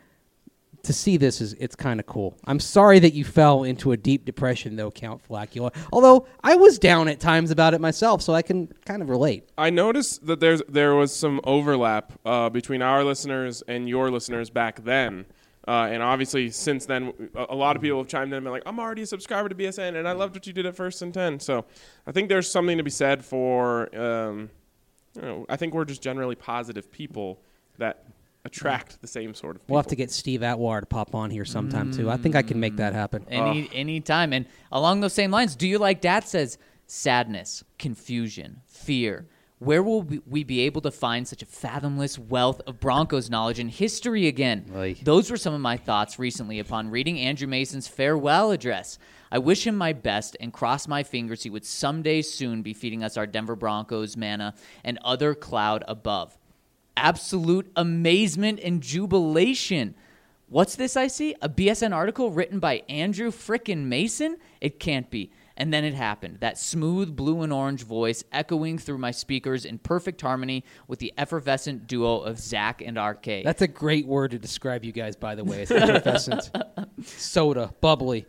to see this is it's kind of cool. I'm sorry that you fell into a deep depression, though, Count Flacula. Although I was down at times about it myself, so I can kind of relate. I noticed that there's there was some overlap uh, between our listeners and your listeners back then. Uh, and obviously, since then, a, a lot of people have chimed in and been like, I'm already a subscriber to B S N, and I loved what you did at First and Ten. So I think there's something to be said for, um, you know, I think we're just generally positive people that attract the same sort of people. We'll have to get Steve Atwater to pop on here sometime, too. I think I can make that happen. Any any time. And along those same lines, do you like Dad says sadness, confusion, fear? Where will we- we be able to find such a fathomless wealth of Broncos knowledge and history again? Oy. Those were some of my thoughts recently upon reading Andrew Mason's farewell address. I wish him my best and cross my fingers he would someday soon be feeding us our Denver Broncos manna and other cloud above. Absolute amazement and jubilation. What's this I see? A B S N article written by Andrew frickin' Mason? It can't be. And then it happened. That smooth blue and orange voice echoing through my speakers in perfect harmony with the effervescent duo of Zach and R K. That's a great word to describe you guys, by the way. It's effervescent. Soda, bubbly.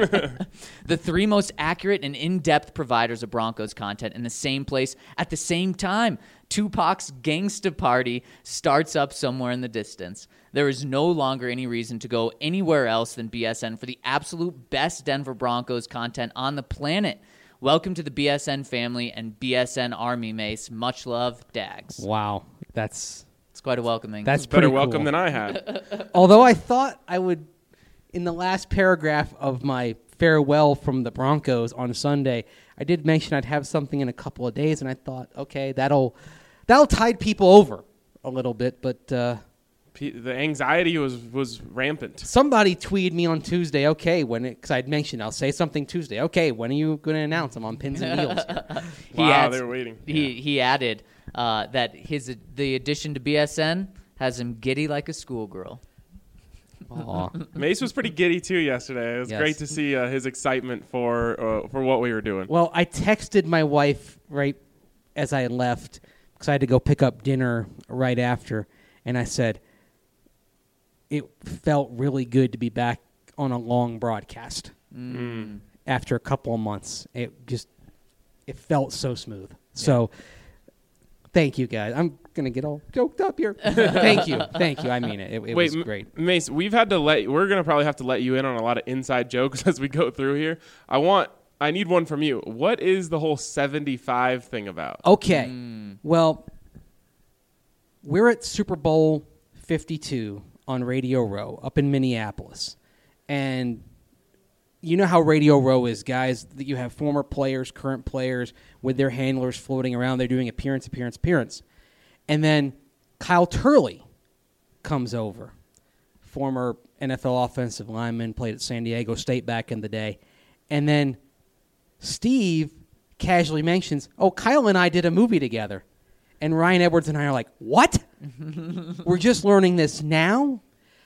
The three most accurate and in-depth providers of Broncos content in the same place at the same time. Tupac's Gangsta Party starts up somewhere in the distance. There is no longer any reason to go anywhere else than B S N for the absolute best Denver Broncos content on the planet. Welcome to the B S N family and B S N Army, Mace. Much love, Dags. Wow. That's It's quite a welcoming. that's Better pretty welcome cool. than I had. Although I thought I would, in the last paragraph of my farewell from the Broncos on Sunday, I did mention I'd have something in a couple of days, and I thought, okay, that'll that'll tide people over a little bit. But uh, P- the anxiety was, was rampant. somebody tweeted me on Tuesday, okay, when because I'd mentioned I'll say something Tuesday. Okay, when are you going to announce I'm on Pins and Needles? He Wow, adds- they were waiting. He he added uh, that his the addition to B S N has him giddy like a schoolgirl. Aw. Mace was pretty giddy too yesterday. It was Yes. great to see uh, his excitement for uh, for what we were doing. Well, I texted my wife right as I left because I had to go pick up dinner right after, and I said it felt really good to be back on a long broadcast Mm. after a couple of months. It just it felt so smooth. So Thank you, guys. I'm gonna get all choked up here. Thank you, thank you. I mean it. It, it Wait, was great. M- Mace, we've had to let we're gonna probably have to let you in on a lot of inside jokes as we go through here. I want, I need one from you. What is the whole seventy-five thing about? Okay, Mm. well, we're at Super Bowl fifty-two on Radio Row up in Minneapolis, and you know how Radio Row is, guys. That you have former players, current players with their handlers floating around. They're doing appearance, appearance, appearance. And then Kyle Turley comes over, former N F L offensive lineman, played at San Diego State back in the day. And then Steve casually mentions, oh, Kyle and I did a movie together. And Ryan Edwards and I are like, what? We're just learning this now?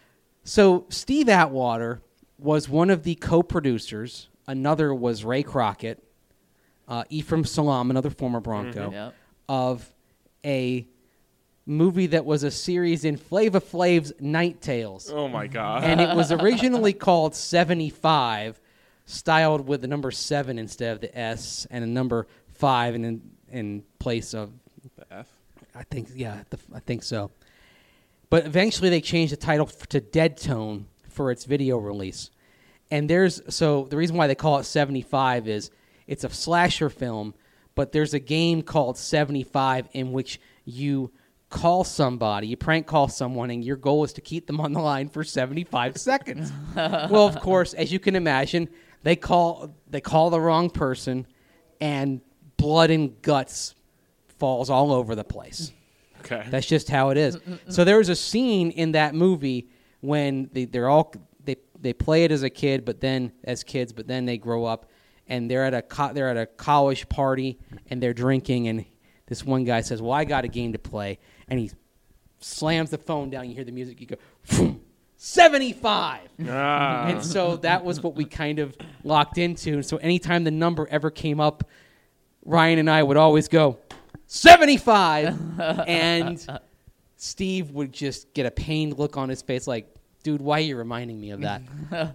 So Steve Atwater was one of the co-producers. Another was Ray Crockett, uh, Ephraim Salam, another former Bronco, Mm-hmm. Yep. of a movie that was a series in Flava Flav's Night Tales. Oh my God. And it was originally called seventy-five, styled with the number seven instead of the S, and a number five in in place of, The F. I think, yeah, the, I think so. But eventually they changed the title f- to Dead Tone for its video release. And there's, so the reason why they call it seventy-five is it's a slasher film, but there's a game called seventy-five in which you call somebody, you prank call someone, and your goal is to keep them on the line for seventy-five seconds. Well, of course, as you can imagine, they call they call the wrong person, and blood and guts falls all over the place. Okay. That's just how it is. So there was a scene in that movie when they, they're all they they play it as a kid, but then as kids, but then they grow up, and they're at a co- they're at a college party and they're drinking, and this one guy says, "Well, I got a game to play," and he slams the phone down. You hear the music. You go, "Phoom, seventy-five." Ah. And so that was what we kind of locked into. And so anytime the number ever came up, Ryan and I would always go, seventy-five. And Steve would just get a pained look on his face like, dude, why are you reminding me of that?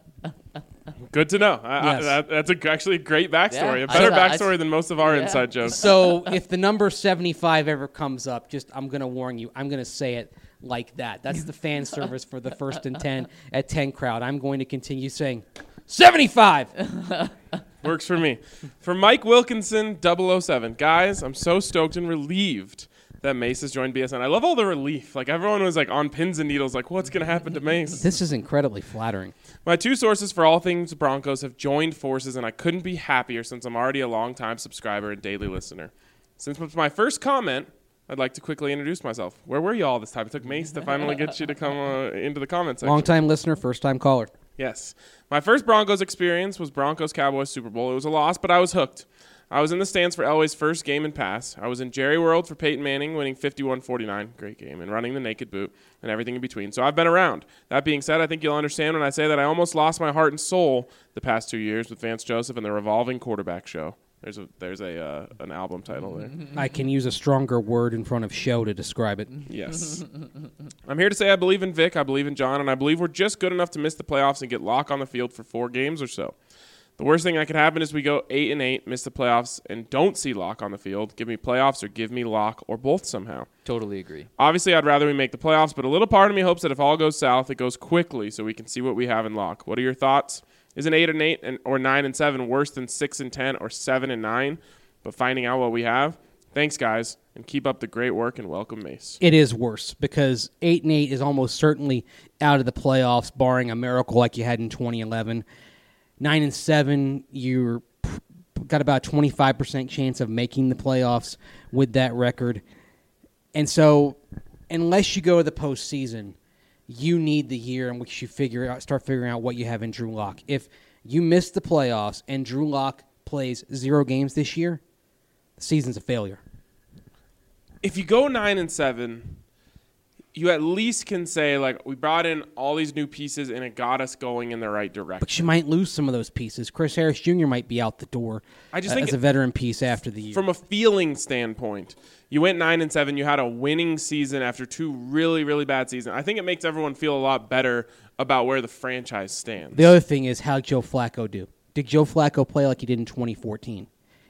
Good to know. I, Yes. I, that, that's a, actually a great backstory. Yeah, a better I- I- backstory than most of our Yeah. inside jokes. So if the number seventy-five ever comes up, just I'm going to warn you, I'm going to say it like that. That's the fan service for the first and ten at ten crowd. I'm going to continue saying seventy-five. Works for me. For Mike Wilkinson, double oh seven. Guys, I'm so stoked and relieved that Mace has joined B S N. I love all the relief. Like, everyone was, like, on pins and needles, like, what's going to happen to Mace? This is incredibly flattering. My two sources for all things Broncos have joined forces, and I couldn't be happier since I'm already a long-time subscriber and daily listener. Since it's my first comment, I'd like to quickly introduce myself. Where were you all this time? It took Mace to finally get you to come uh, into the comment section. Long-time listener, first-time caller. Yes. My first Broncos experience was Broncos-Cowboys Super Bowl. It was a loss, but I was hooked. I was in the stands for Elway's first game and pass. I was in Jerry World for Peyton Manning, winning fifty-one forty-nine, great game, and running the naked boot and everything in between. So I've been around. That being said, I think you'll understand when I say that I almost lost my heart and soul the past two years with Vance Joseph and the Revolving Quarterback Show. There's a there's a uh, an album title there. I can use a stronger word in front of show to describe it. Yes. I'm here to say I believe in Vic, I believe in John, and I believe we're just good enough to miss the playoffs and get Locke on the field for four games or so. The worst thing that could happen is we go eight and eight, miss the playoffs, and don't see Locke on the field. Give me playoffs or give me Locke or both somehow. Totally agree. Obviously, I'd rather we make the playoffs, but a little part of me hopes that if all goes south, it goes quickly so we can see what we have in Locke. What are your thoughts? Is an eight and eight and or nine and seven worse than six and ten or seven and nine? But finding out what we have. Thanks, guys, and keep up the great work and welcome Mace. It is worse because eight and eight is almost certainly out of the playoffs, barring a miracle like you had in twenty eleven. Nine and seven, you're got about twenty-five percent chance of making the playoffs with that record. And so, unless you go to the postseason, you need the year in which you figure out, start figuring out what you have in Drew Lock. If you miss the playoffs and Drew Lock plays zero games this year, the season's a failure. If you go nine and seven, you at least can say, like, we brought in all these new pieces and it got us going in the right direction. But you might lose some of those pieces. Chris Harris Junior might be out the door I just uh, think as a it- veteran piece after the year. From a feeling standpoint, you went nine and seven. You had a winning season after two really, really bad seasons. I think it makes everyone feel a lot better about where the franchise stands. The other thing is, how Joe Flacco do? Did Joe Flacco play like he did in twenty fourteen?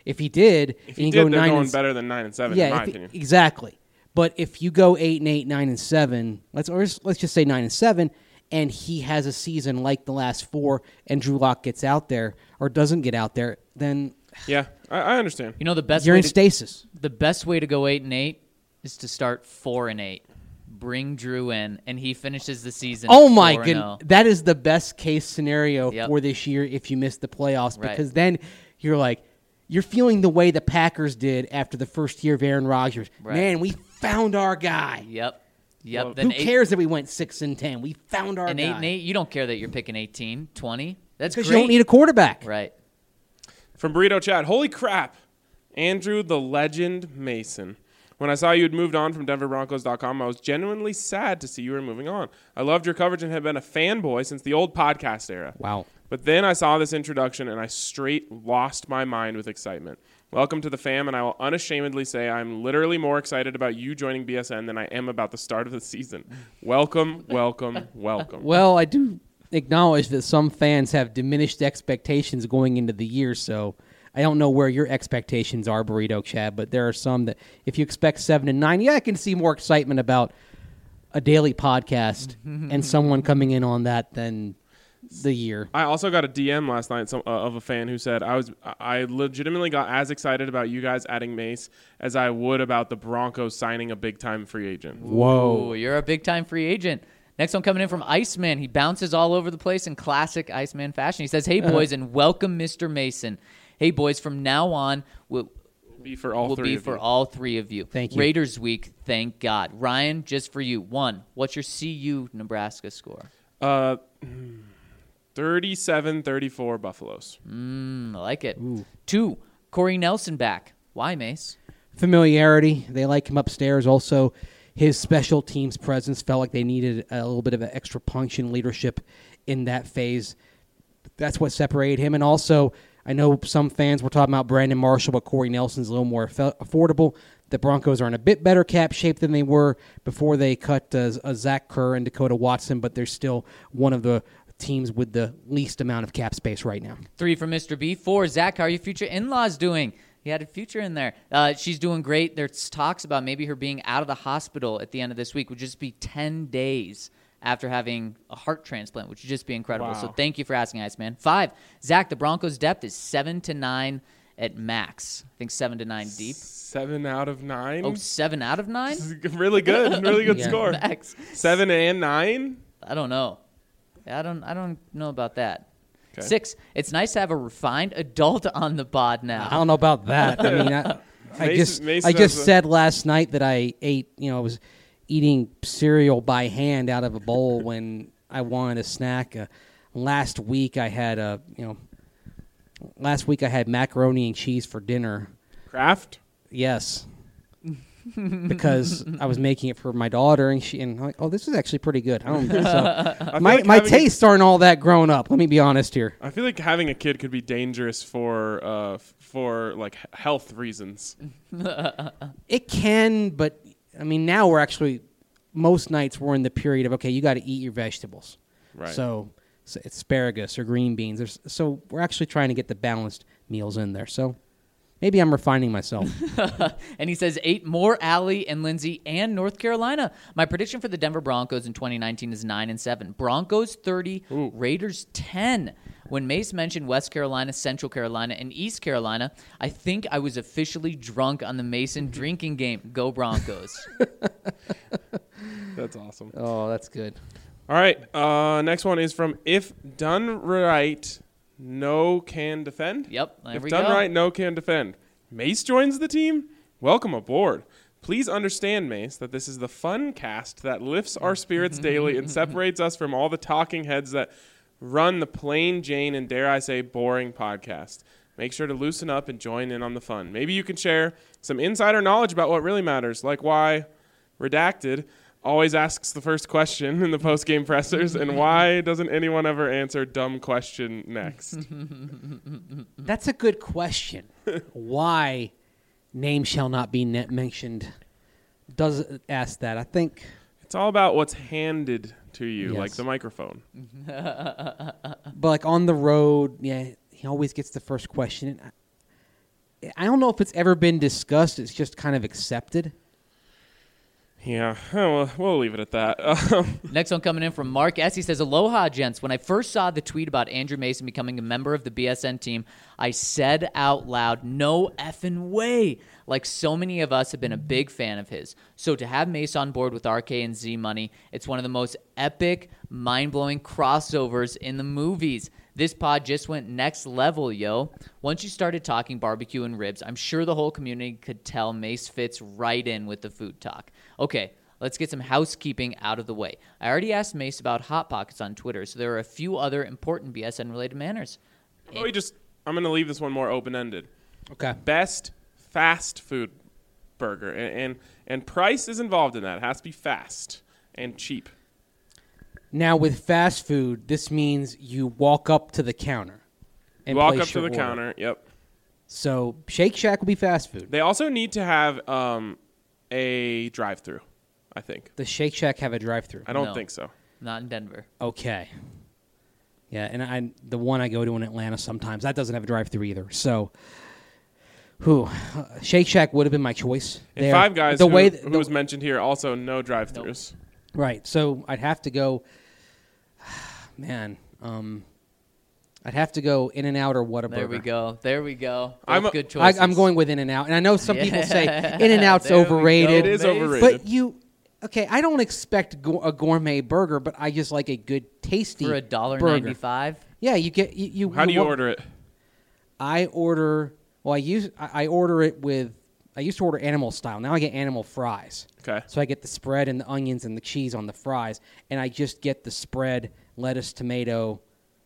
If he did, If and he you did, go they're nine going and, better than nine and seven, yeah, in my if- opinion. exactly. But if you go eight and eight, nine and seven, let's or just- let's just say nine and seven, and he has a season like the last four, and Drew Lock gets out there or doesn't get out there, then Yeah, I, I understand. You know the best you're way in to, stasis. the best way to go eight and eight is to start four and eight. Bring Drew in, and he finishes the season. Oh my four and goodness, oh. that is the best case scenario Yep. for this year if you miss the playoffs, Right. because then you're like, you're feeling the way the Packers did after the first year of Aaron Rodgers. Right. Man, we found our guy. Yep. Yep. Well, then Who eight, cares that we went six and ten? We found our And guy. eight and eight, you don't care that you're picking eighteen, twenty. That's because great. you don't need a quarterback. Right. From Burrito Chat, holy crap, Andrew the Legend Mason. When I saw you had moved on from Denver Broncos dot com, I was genuinely sad to see you were moving on. I loved your coverage and have been a fanboy since the old podcast era. Wow. But then I saw this introduction and I straight lost my mind with excitement. Welcome to the fam, and I will unashamedly say I'm literally more excited about you joining B S N than I am about the start of the season. Welcome, welcome, welcome. Well, I do acknowledge that some fans have diminished expectations going into the year, so I don't know where your expectations are, Burrito Chad, but there are some that if you expect seven and nine, yeah, I can see more excitement about a daily podcast and someone coming in on that than the year. I also got a D M last night some, uh, of a fan who said I was I legitimately got as excited about you guys adding Mace as I would about the Broncos signing a big time free agent. Ooh, you're a big time free agent. Next one coming in from Iceman. He bounces all over the place in classic Iceman fashion. He says, "Hey boys, and welcome, Mister Mason. Hey boys, from now on, we'll, Be for all will three be of for you. all three of you. Thank you. Raiders week, thank God. Ryan, just for you. One, what's your C U Nebraska score? Uh, thirty-seven thirty-four Buffaloes. Mm, I like it. Two, Corey Nelson back. Why, Mace? Familiarity. They like him upstairs. Also, his special teams presence felt like they needed a little bit of an extra punch and leadership in that phase. That's what separated him. And also, I know some fans were talking about Brandon Marshall, but Corey Nelson's a little more aff- affordable. The Broncos are in a bit better cap shape than they were before they cut uh, uh, Zach Kerr and Dakota Watson, but they're still one of the teams with the least amount of cap space right now. Three for Mister B. Four, Zach, how are your future in-laws doing? He had a future in there. Uh, she's doing great. There's talks about maybe her being out of the hospital at the end of this week, would just be ten days after having a heart transplant, which would just be incredible. Wow. So thank you for asking, Iceman. Five, Zach, the Broncos' depth is seven to nine at max. I think seven to nine deep. Seven out of nine. Oh, seven out of nine? really good. Really good Yeah. score. Max. Seven and nine. I don't know. I don't. I don't know about that. Okay. Six. It's nice to have a refined adult on the pod now. I don't know about that. I mean, I, I Mason- just Mason I just has a- said last night that I ate, you know, I was eating cereal by hand out of a bowl when I wanted a snack. Uh, last week I had a, you know, last week I had macaroni and cheese for dinner. Kraft. Yes. Because I was making it for my daughter, and she and I'm like, oh, this is actually pretty good. I don't. So I feel my like my having a- tastes aren't all that grown up. Let me be honest here. I feel like having a kid could be dangerous for uh f- for like h- health reasons. It can, but I mean, now we're actually most nights we're in the period of okay, you got to eat your vegetables. Right. So, so asparagus or green beans. There's, so we're actually trying to get the balanced meals in there. So maybe I'm refining myself. And he says eight more Allie and Lindsay and North Carolina. My prediction for the Denver Broncos in twenty nineteen is nine and seven. Broncos thirty, Ooh. Raiders ten. When Mace mentioned West Carolina, Central Carolina, and East Carolina, I think I was officially drunk on the Mason drinking game. Go Broncos. That's awesome. Oh, that's good. All right. Uh, next one is from If Done Right, No Can Defend. Yep, there if we done go. right, no can defend. Mace joins the team. Welcome aboard. Please understand, Mace, that this is the fun cast that lifts our spirits daily and separates us from all the talking heads that run the plain Jane and, dare I say, boring podcast. Make sure to loosen up and join in on the fun. Maybe you can share some insider knowledge about what really matters, like why Redacted always asks the first question in the post-game pressers, and why doesn't anyone ever answer dumb question next? That's a good question. Why name shall not be net mentioned does ask that. I think It's all about what's handed to you, Yes. like the microphone. But like on the road, yeah, he always gets the first question. And I- I don't know if it's ever been discussed. It's just kind of accepted. Yeah, oh, well, we'll leave it at that. Um, Next one coming in from Mark S. He says, Aloha, gents. When I first saw the tweet about Andrew Mason becoming a member of the B S N team, I said out loud, no effing way. Like so many of us have been a big fan of his. So to have Mace on board with R K and Z Money, it's one of the most epic, mind-blowing crossovers in the movies. This pod just went next level, yo. Once you started talking barbecue and ribs, I'm sure the whole community could tell Mace fits right in with the food talk. Okay, let's get some housekeeping out of the way. I already asked Mace about Hot Pockets on Twitter, so there are a few other important B S N-related manners. oh, we just, I'm going to leave this one more open-ended. Okay. Best fast food burger. And, and, and price is involved in that. It has to be fast and cheap. Now, with fast food, this means you walk up to the counter. And Walk place up to your the order. counter. Yep. So Shake Shack will be fast food. They also need to have um, a drive-through, I think. Does Shake Shack have a drive-through? I don't No. think so. Not in Denver. Okay. Yeah, and I the one I go to in Atlanta sometimes, that doesn't have a drive-through either. So, who uh, Shake Shack would have been my choice. And there. Five Guys, the who, way who th- the, was mentioned here, also no drive-throughs. right. So I'd have to go. Man, um, I'd have to go In and Out or Whataburger. There we go. There we go. Both I'm a- good I, choices. I'm going with In and Out, and I know some people say Yeah. In and Out's There we go, overrated. It is Mace. overrated. But you, okay, I don't expect go- a gourmet burger, but I just like a good, tasty For a dollar burger. ninety-five. Yeah, you get you. you How do you wa- order it? I order. Well, I use I, I order it with. I used to order animal style. Now I get animal fries. Okay. So I get the spread and the onions and the cheese on the fries, and I just get the spread, lettuce, tomato,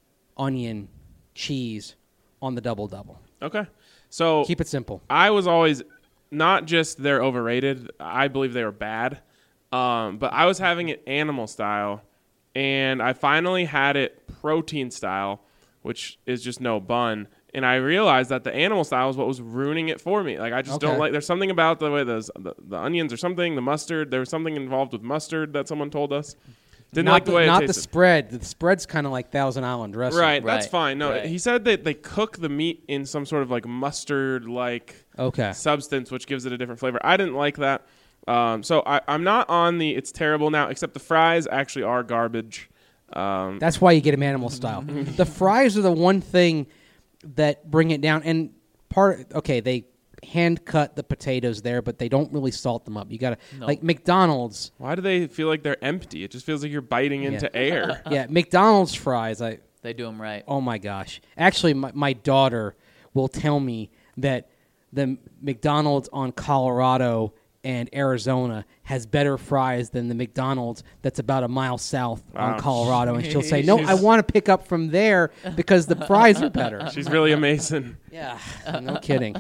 onion, cheese on the double double. Okay. So Keep it simple. I was always not just they're overrated. I believe they were bad. Um, but I was having it animal style, and I finally had it protein style, which is just no bun. And I realized that the animal style is what was ruining it for me. Like I just Okay. don't like. There's something about the way those the, the onions or something, the mustard. There was something involved with mustard that someone told us. Didn't not like the way not it the tasted. spread. The spread's kind of like Thousand Island dressing. Right, that's Right, fine. No, right. he said that they cook the meat in some sort of like mustard like Okay. substance, which gives it a different flavor. I didn't like that. Um, so I, I'm not on the it's terrible now, except the fries actually are garbage. Um, That's why you get them animal style. The fries are the one thing that bring it down. And part, okay, they hand cut the potatoes there, but they don't really salt them up. You gotta No. like McDonald's. why do they feel like they're empty? It just feels like you're biting into air. Yeah, McDonald's fries. I They do them right. oh my gosh. Actually, my, my daughter will tell me that the McDonald's on Colorado and Arizona has better fries than the McDonald's that's about a mile south Wow. on Colorado, and she'll say, "No, I want to pick up from there because the fries are better." She's really a Mason. Yeah, no kidding.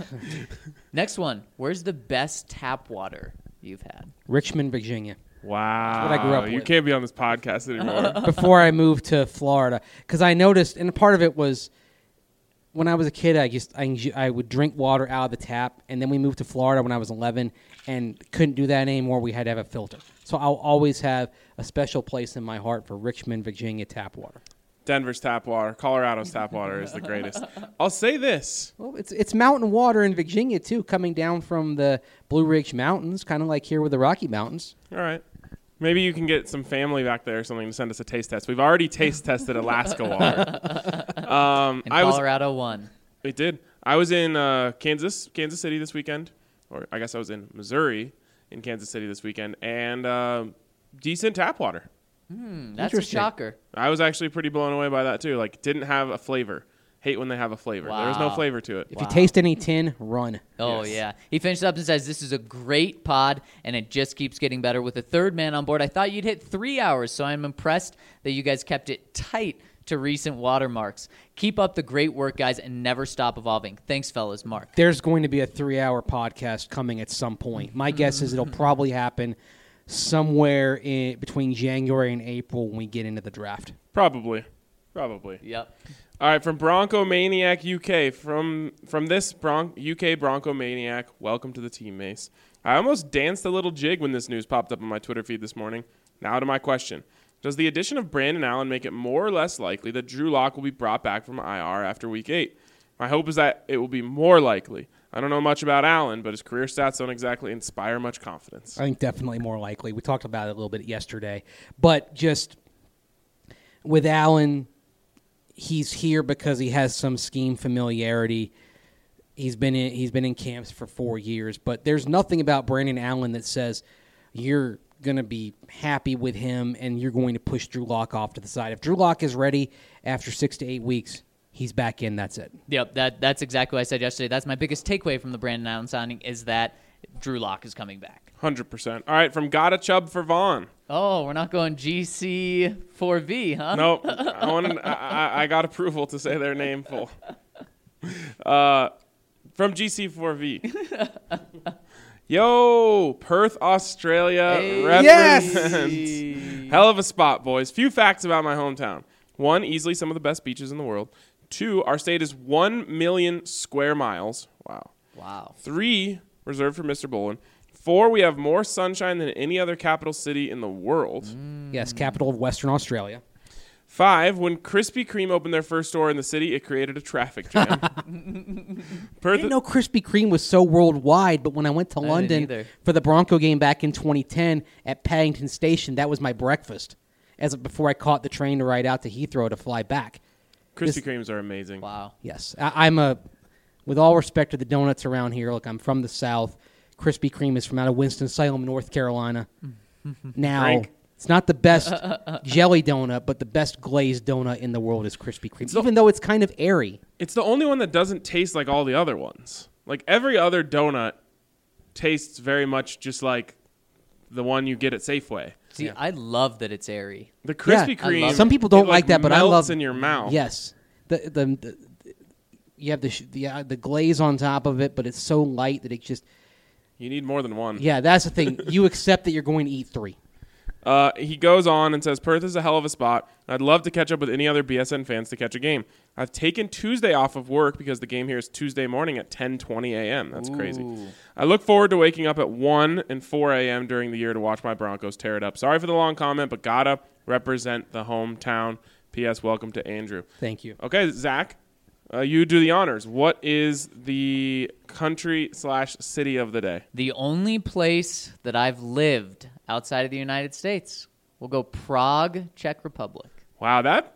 Next one. Where's the best tap water you've had? Richmond, Virginia. Wow. what I grew up You with. can't be on this podcast anymore. Before I moved to Florida, because I noticed, and part of it was when I was a kid, I just I, enj- I would drink water out of the tap, and then we moved to Florida when I was eleven, and couldn't do that anymore. We had to have a filter, so I'll always have a special place in my heart for Richmond, Virginia tap water. Denver's tap water, Colorado's tap water is the greatest. I'll say this. Well, it's it's mountain water in Virginia too, coming down from the Blue Ridge Mountains, kind of like here with the Rocky Mountains. All right. Maybe you can get some family back there or something to send us a taste test. We've already taste tested Alaska water. Um, And I was Colorado won. It did. I was in uh, Kansas, Kansas City this weekend, or I guess I was in Missouri, in Kansas City this weekend, and uh, decent tap water. Hmm, that's a Interesting. shocker. I was actually pretty blown away by that too. Like, didn't have a flavor. Hate when they have a flavor. There was no Wow. flavor to it. If Wow. you taste any tin, run. Oh, Yes. yeah. He finished up and says, this is a great pod, and it just keeps getting better. With a third man on board, I thought you'd hit three hours, so I'm impressed that you guys kept it tight to recent watermarks. Keep up the great work, guys, and never stop evolving. Thanks, fellas. Mark. There's going to be a three-hour podcast coming at some point. My guess is it'll probably happen somewhere in between January and April when we get into the draft. Probably. Probably. Yep. All right, from Bronco Maniac U K, from from this Bron- U K Bronco Maniac, welcome to the team, Mace. I almost danced a little jig when this news popped up on my Twitter feed this morning. Now to my question. Does the addition of Brandon Allen make it more or less likely that Drew Lock will be brought back from I R after week eight? My hope is that it will be more likely. I don't know much about Allen, but his career stats don't exactly inspire much confidence. I think definitely more likely. We talked about it a little bit yesterday. But just with Allen, he's here because he has some scheme familiarity. He's been in, he's been in camps for four years. But there's nothing about Brandon Allen that says you're going to be happy with him and you're going to push Drew Lock off to the side. If Drew Lock is ready after six to eight weeks, he's back in. That's it. Yep, that that's exactly what I said yesterday. That's my biggest takeaway from the Brandon Allen signing is that Drew Lock is coming back. one hundred percent. All right, from Gotta Chubb for Vaughn. Oh, we're not going G C four V, huh? Nope. I, wanted, I, I, I got approval to say their name full. Uh, from G C four V. Yo, Perth, Australia Hey. represents. Yes! Hell of a spot, boys. Few facts about my hometown. One, easily some of the best beaches in the world. Two, our state is one million square miles. Wow. Wow. Three, reserved for Mister Bolin. Four, we have more sunshine than any other capital city in the world. Mm. Yes, capital of Western Australia. Five, when Krispy Kreme opened their first store in the city, it created a traffic jam. I Perth, didn't know Krispy Kreme was so worldwide, but when I went to I didn't London either. for the Bronco game back in twenty ten at Paddington Station, that was my breakfast as before I caught the train to ride out to Heathrow to fly back. Krispy this- Kremes are amazing. Wow. Yes, I, I'm a. With all respect to the donuts around here, look, I'm from the South. Krispy Kreme is from out of Winston-Salem, North Carolina. Now, Frank. it's not the best jelly donut, but the best glazed donut in the world is Krispy Kreme, even though it's kind of airy. It's the only one that doesn't taste like all the other ones. Like every other donut tastes very much just like the one you get at Safeway. See, Yeah. I love that it's airy. The Krispy Yeah, I Kreme. love Some people don't it, like that, but I melts love- in your mouth. Yes, the the, the you have the sh- the, uh, the glaze on top of it, but it's so light that it just You need more than one. yeah. That's the thing. You accept that you're going to eat three. Uh, he goes on and says, Perth is a hell of a spot. I'd love to catch up with any other B S N fans to catch a game. I've taken Tuesday off of work because the game here is Tuesday morning at ten twenty a.m. That's crazy. Ooh. I look forward to waking up at one and four a.m. during the year to watch my Broncos tear it up. Sorry for the long comment, but gotta represent the hometown. P S. Welcome to Andrew. Thank you. Okay, Zach, uh, you do the honors. What is the country slash city of the day? The only place that I've lived outside of the United States. We'll go Prague, Czech Republic. Wow, that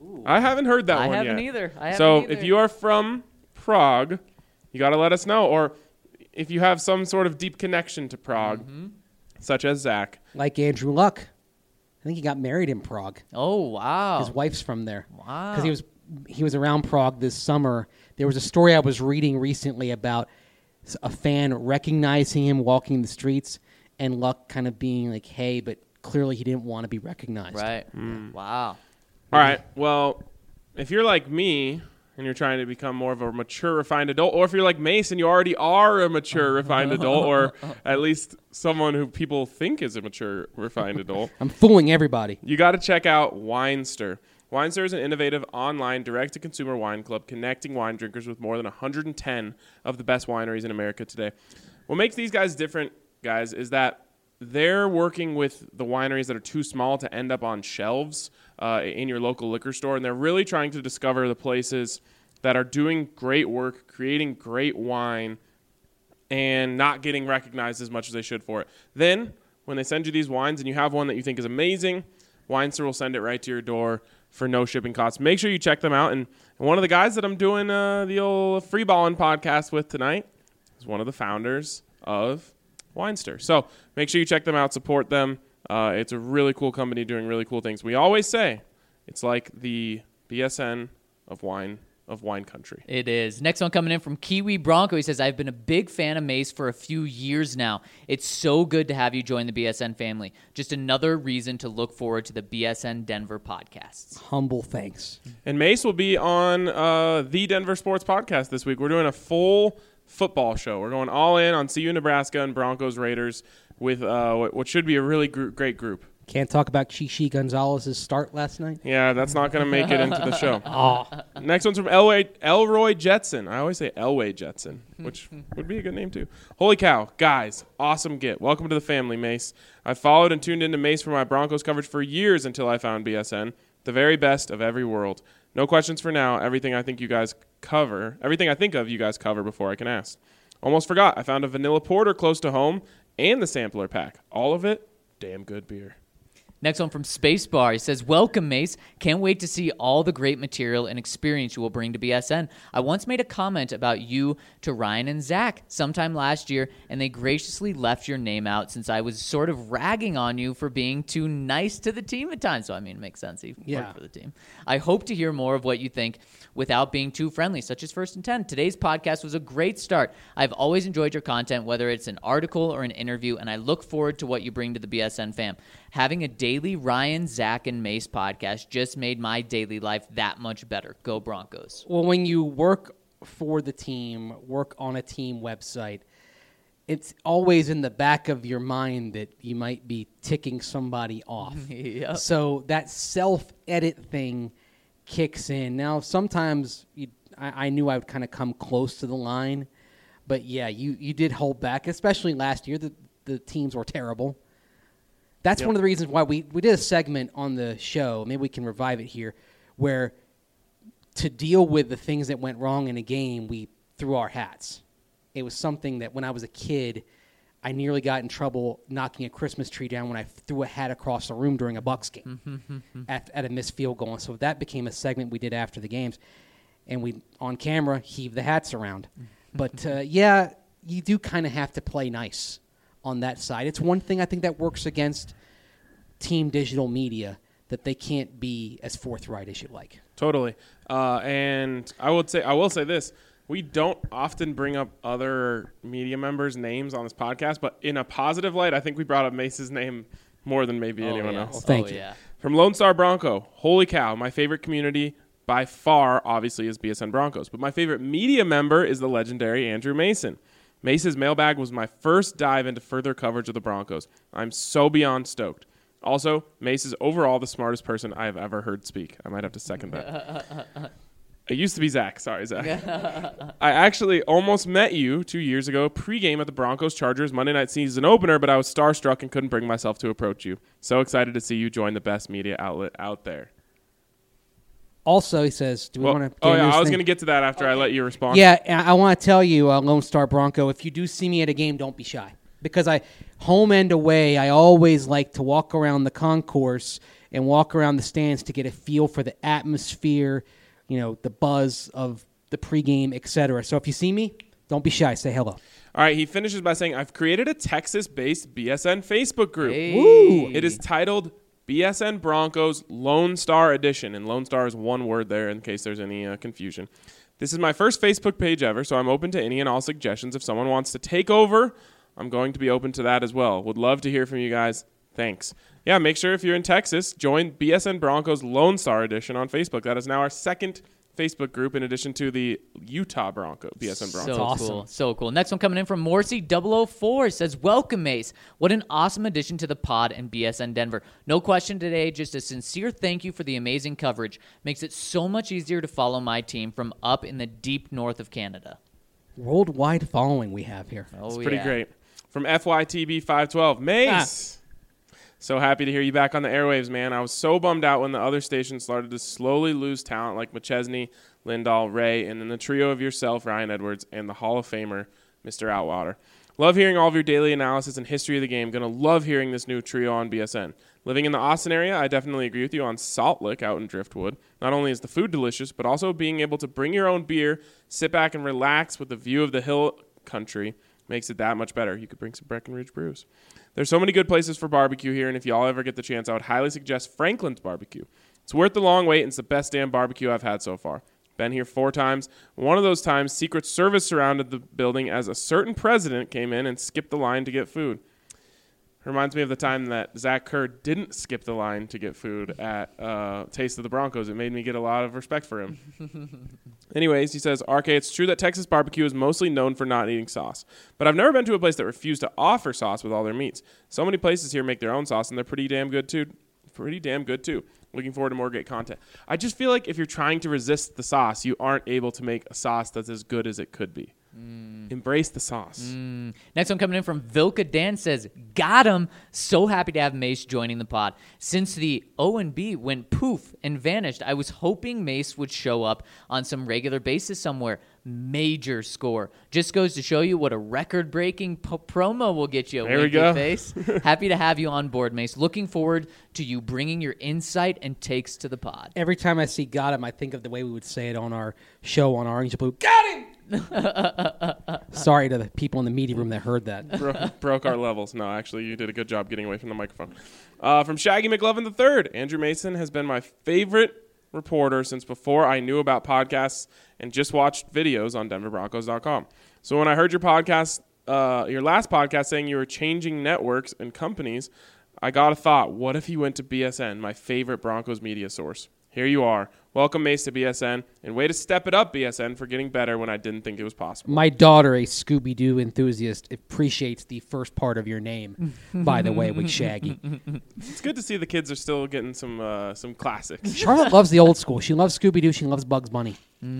I haven't heard that I one haven't yet. either. I haven't so either. if you are from Prague, you got to let us know. Or if you have some sort of deep connection to Prague, Mm-hmm. such as Zach. Like Andrew Luck, I think he got married in Prague. Oh, wow. His wife's from there. Wow. Because he was he was around Prague this summer. There was a story I was reading recently about s- a fan recognizing him walking the streets, and Luck kind of being like, "Hey," but clearly he didn't want to be recognized. Right. Hmm. Wow. All right. Well, if you're like me and you're trying to become more of a mature, refined adult, or if you're like Mason, you already are a mature, refined adult, or at least someone who people think is a mature, refined adult, I'm fooling everybody. you got to check out Winestir. Winestir is an innovative online direct-to-consumer wine club connecting wine drinkers with more than one hundred ten of the best wineries in America today. What makes these guys different, guys, is that they're working with the wineries that are too small to end up on shelves uh, in your local liquor store, and they're really trying to discover the places that are doing great work, creating great wine, and not getting recognized as much as they should for it. Then, when they send you these wines and you have one that you think is amazing, Winestir will send it right to your door for no shipping costs. Make sure you check them out. And, and one of the guys that I'm doing uh, the old Free Ballin' podcast with tonight is one of the founders of Winestir. So make sure you check them out, support them. Uh, it's a really cool company doing really cool things. We always say it's like the B S N of wine of wine country. It is. Next one coming in from Kiwi Bronco. He says, I've been a big fan of Mace for a few years now. It's so good to have you join the B S N family. Just another reason to look forward to the B S N Denver podcasts. Humble thanks. And Mace will be on uh, the Denver Sports Podcast this week. We're doing a full football show. We're going all in on C U Nebraska and Broncos Raiders with uh, what what should be a really gr- great group. Can't talk about Chichi Gonzalez's start last night. Yeah, that's not going to make it into the show. Oh, Next one's from Elway, Elroy Jetson. I always say Elway Jetson, which would be a good name too. Holy cow, guys, awesome get. Welcome to the family, Mace. I followed and tuned into Mace for my Broncos coverage for years until I found B S N, the very best of every world. No questions for now. Everything I think you guys cover, everything I think of you guys cover before I can ask. Almost forgot. I found a vanilla porter close to home and the sampler pack. All of it, damn good beer. Next one from Spacebar. He says, welcome, Mace. Can't wait to see all the great material and experience you will bring to B S N. I once made a comment about you to Ryan and Zach sometime last year, and they graciously left your name out since I was sort of ragging on you for being too nice to the team at times. So, I mean, it makes sense. He Yeah. worked for the team. I hope to hear more of what you think without being too friendly, such as First and ten. Today's podcast was a great start. I've always enjoyed your content, whether it's an article or an interview, and I look forward to what you bring to the B S N fam. Having a daily Ryan, Zach, and Mace podcast just made my daily life that much better. Go Broncos. Well, when you work for the team, work on a team website, it's always in the back of your mind that you might be ticking somebody off. Yep. So that self-edit thing kicks in. Now, sometimes you, I, I knew I would kind of come close to the line, but yeah, you, you did hold back, especially last year. The, the teams were terrible. That's Yep. one of the reasons why we, we did a segment on the show, maybe we can revive it here, where to deal with the things that went wrong in a game, we threw our hats. It was something that when I was a kid, I nearly got in trouble knocking a Christmas tree down when I threw a hat across the room during a Bucs game at, at a missed field goal. And so that became a segment we did after the games. And we, on camera, heaved the hats around. But, uh, yeah, you do kind of have to play nice on that side. It's one thing I think that works against team digital media, that they can't be as forthright as you like. Totally. Uh, and I would say I will say this. We don't often bring up other media members' names on this podcast, but in a positive light, I think we brought up Mace's name more than maybe Oh, anyone yeah. else. Well, thank oh, you. Yeah. From Lone Star Bronco, holy cow, my favorite community by far, obviously, is B S N Broncos. But my favorite media member is the legendary Andrew Mason. Mace's mailbag was my first dive into further coverage of the Broncos. I'm so beyond stoked. Also, Mace is overall the smartest person I have ever heard speak. I might have to second that. It used to be Zach. Sorry, Zach. I actually almost met you two years ago pregame at the Broncos-Chargers Monday night season opener, but I was starstruck and couldn't bring myself to approach you. So excited to see you join the best media outlet out there. Also, he says, do we Well, want to oh, yeah, I was going to get to that after I let you respond. Yeah, and I want to tell you, uh, Lone Star Bronco, if you do see me at a game, don't be shy. Because I, home and away, I always like to walk around the concourse and walk around the stands to get a feel for the atmosphere, you know, the buzz of the pregame, et cetera. So if you see me, don't be shy. Say hello. All right, he finishes by saying, I've created a Texas-based B S N Facebook group. Hey. Woo! It is titled B S N Broncos Lone Star Edition, and Lone Star is one word there in case there's any uh, confusion. This is my first Facebook page ever, so I'm open to any and all suggestions. If someone wants to take over, I'm going to be open to that as well. Would love to hear from you guys. Thanks. Yeah, make sure if you're in Texas, join B S N Broncos Lone Star Edition on Facebook. That is now our second Facebook group in addition to the Utah Bronco, B S N Broncos. So awesome. cool. So cool. Next one coming in from Morrissey double oh four says, welcome, Mace. What an awesome addition to the pod and B S N Denver. No question today, just a sincere thank you for the amazing coverage. Makes it so much easier to follow my team from up in the deep north of Canada. Worldwide following we have here. Oh, It's pretty yeah. great. From F Y T B five twelve, Mace. So happy to hear you back on the airwaves, man. I was so bummed out when the other stations started to slowly lose talent like McChesney, Lindahl, Ray, and then the trio of yourself, Ryan Edwards, and the Hall of Famer, Mister Outwater. Love hearing all of your daily analysis and history of the game. Gonna love hearing this new trio on B S N. Living in the Austin area, I definitely agree with you on Salt Lick out in Driftwood. Not only is the food delicious, but also being able to bring your own beer, sit back and relax with the view of the hill country makes it that much better. You could bring some Breckenridge brews. There's so many good places for barbecue here, and if y'all ever get the chance, I would highly suggest Franklin's Barbecue. It's worth the long wait, and it's the best damn barbecue I've had so far. Been here four times. One of those times, Secret Service surrounded the building as a certain president came in and skipped the line to get food. Reminds me of the time that Zach Kerr didn't skip the line to get food at uh, Taste of the Broncos. It made me get a lot of respect for him. Anyways, he says, R K, it's true that Texas barbecue is mostly known for not eating sauce, but I've never been to a place that refused to offer sauce with all their meats. So many places here make their own sauce, and they're pretty damn good too. Pretty damn good too. Looking forward to more great content. I just feel like if you're trying to resist the sauce, you aren't able to make a sauce that's as good as it could be. Mm. Embrace the sauce. Mm. Next one coming in from Vilka Dan says, got him. So happy to have Mace joining the pod. Since the O and B went poof and vanished, I was hoping Mace would show up on some regular basis somewhere. Major score. Just goes to show you what a record-breaking po- promo will get you. There we go. Face. Happy to have you on board, Mace. Looking forward to you bringing your insight and takes to the pod. Every time I see got him, I think of the way we would say it on our show on Orange Blue. Got him! Sorry to the people in the media room that heard that. Bro- broke our levels. No, actually, you did a good job getting away from the microphone. Uh, from Shaggy McLovin the third, Andrew Mason has been my favorite reporter since before I knew about podcasts and just watched videos on denver broncos dot com. So when I heard your podcast, uh, your last podcast saying you were changing networks and companies, I got a thought. What if he went to B S N, my favorite Broncos media source? Here you are. Welcome, Mace, to B S N. And way to step it up, B S N, for getting better when I didn't think it was possible. My daughter, a Scooby-Doo enthusiast, appreciates the first part of your name, by the way, with Shaggy. It's good to see the kids are still getting some uh, some classics. Charlotte loves the old school. She loves Scooby-Doo. She loves Bugs Bunny.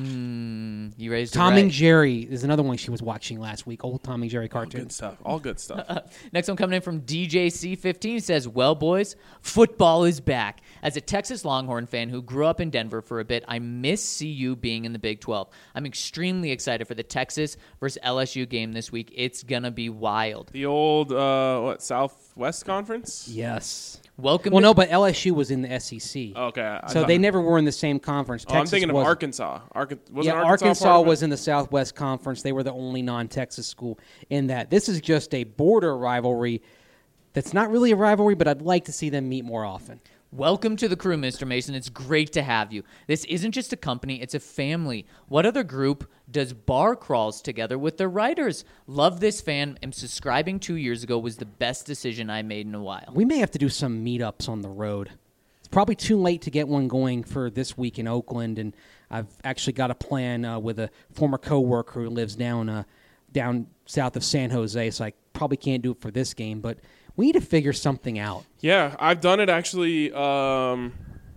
Mm, you raised Tom it right. and Jerry is another one she was watching last week. Old Tom and Jerry All cartoons. good stuff. All good stuff. Next one coming in from D J C fifteen says, well, boys, football is back. As a Texas Longhorn fan who grew up in Denver for a bit, I miss C U being in the Big twelve. I'm extremely excited for the Texas versus L S U game this week. It's going to be wild. The old, uh, what, Southwest Conference? Yes. Welcome Well, to- no, but L S U was in the S E C. Okay. I so thought- they never were in the same conference. Oh, I'm Texas thinking of was- Arkansas. Arca- wasn't Yeah, Arkansas, Arkansas part of it? was in the Southwest Conference. They were the only non-Texas school in that. This is just a border rivalry that's not really a rivalry, but I'd like to see them meet more often. Welcome to the crew, Mister Mason. It's great to have you. This isn't just a company, it's a family. What other group does bar crawls together with their writers? Love this fan. Am subscribing two years ago was the best decision I made in a while. We may have to do some meetups on the road. It's probably too late to get one going for this week in Oakland, and I've actually got a plan uh, with a former coworker who lives down uh, down south of San Jose, so I probably can't do it for this game, but we need to figure something out. Yeah, I've done it actually um,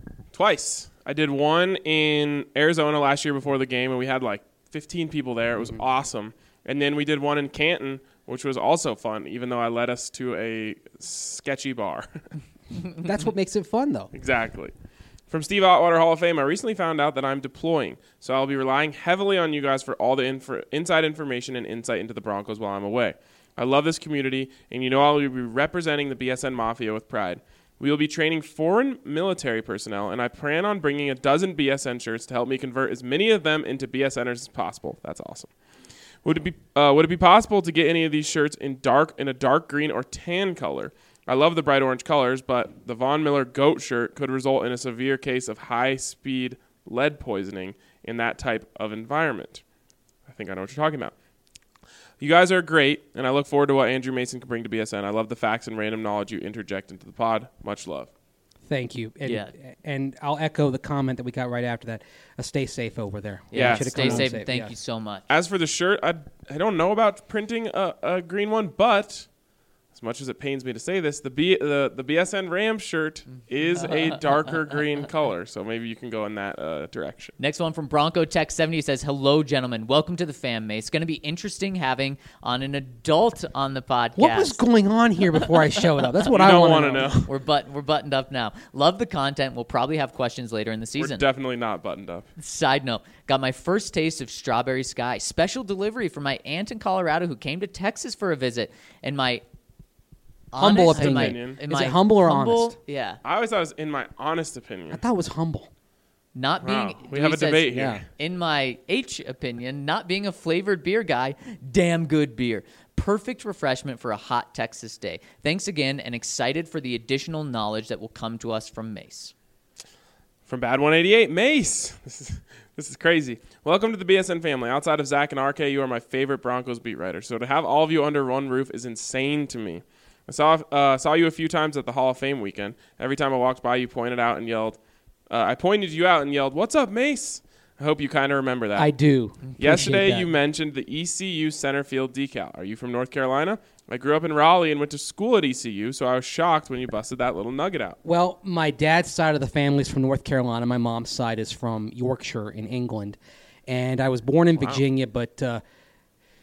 twice. I did one in Arizona last year before the game, and we had like fifteen people there. It was Mm-hmm. awesome. And then we did one in Canton, which was also fun, even though I led us to a sketchy bar. That's what makes it fun, though. Exactly. From Steve Otwater Hall of Fame, I recently found out that I'm deploying, so I'll be relying heavily on you guys for all the inf- inside information and insight into the Broncos while I'm away. I love this community, and you know I'll be representing the B S N Mafia with pride. We will be training foreign military personnel, and I plan on bringing a dozen B S N shirts to help me convert as many of them into BSNers as possible. That's awesome. Would it be uh, would it be possible to get any of these shirts in dark in a dark green or tan color? I love the bright orange colors, but the Von Miller goat shirt could result in a severe case of high-speed lead poisoning in that type of environment. I think I know what you're talking about. You guys are great, and I look forward to what Andrew Mason can bring to B S N. I love the facts and random knowledge you interject into the pod. Much love. Thank you. And, Yeah. and I'll echo the comment that we got right after that. Uh, stay safe over there. Yeah, Should've Stay come home safe, and thank yes. you so much. As for the shirt, I, I don't know about printing a, a green one, but as much as it pains me to say this, the B, the, the B S N Rams shirt is a darker green color, so maybe you can go in that uh, direction. Next one from Bronco Tech seventy says, hello, gentlemen. Welcome to the fam, mate. It's going to be interesting having on an adult on the podcast. What was going on here before I showed up? That's what You I don't want want to to know. We're, but- we're buttoned up now. Love the content. We'll probably have questions later in the We're season. definitely not buttoned up. Side note, got my first taste of Strawberry Sky. Special delivery from my aunt in Colorado who came to Texas for a visit. And my Humble honest- in my- opinion. in Is my it humble or humble- honest? Yeah. I always thought it was in my honest I opinion. thought it was humble. Not Wow. being, We he have a says, debate yeah. here. In my H opinion, not being a flavored beer guy, damn good beer. Perfect refreshment for a hot Texas day. Thanks again, and excited for the additional knowledge that will come to us from Mace. From Bad one eighty-eight, Mace. This is this is crazy. Welcome to the B S N family. Outside of Zach and R K, you are my favorite Broncos beat writers. So to have all of you under one roof is insane to me. I saw uh, saw you a few times at the Hall of Fame weekend. Every time I walked by, you pointed out and yelled. Uh, I pointed you out and yelled, "What's up, Mace?" I hope you kind of remember that. I do. Appreciate Yesterday, that. you mentioned the E C U center field decal. Are you from North Carolina? I grew up in Raleigh and went to school at E C U, so I was shocked when you busted that little nugget out. Well, my dad's side of the family is from North Carolina. My mom's side is from Yorkshire in England. And I was born in Virginia, but uh,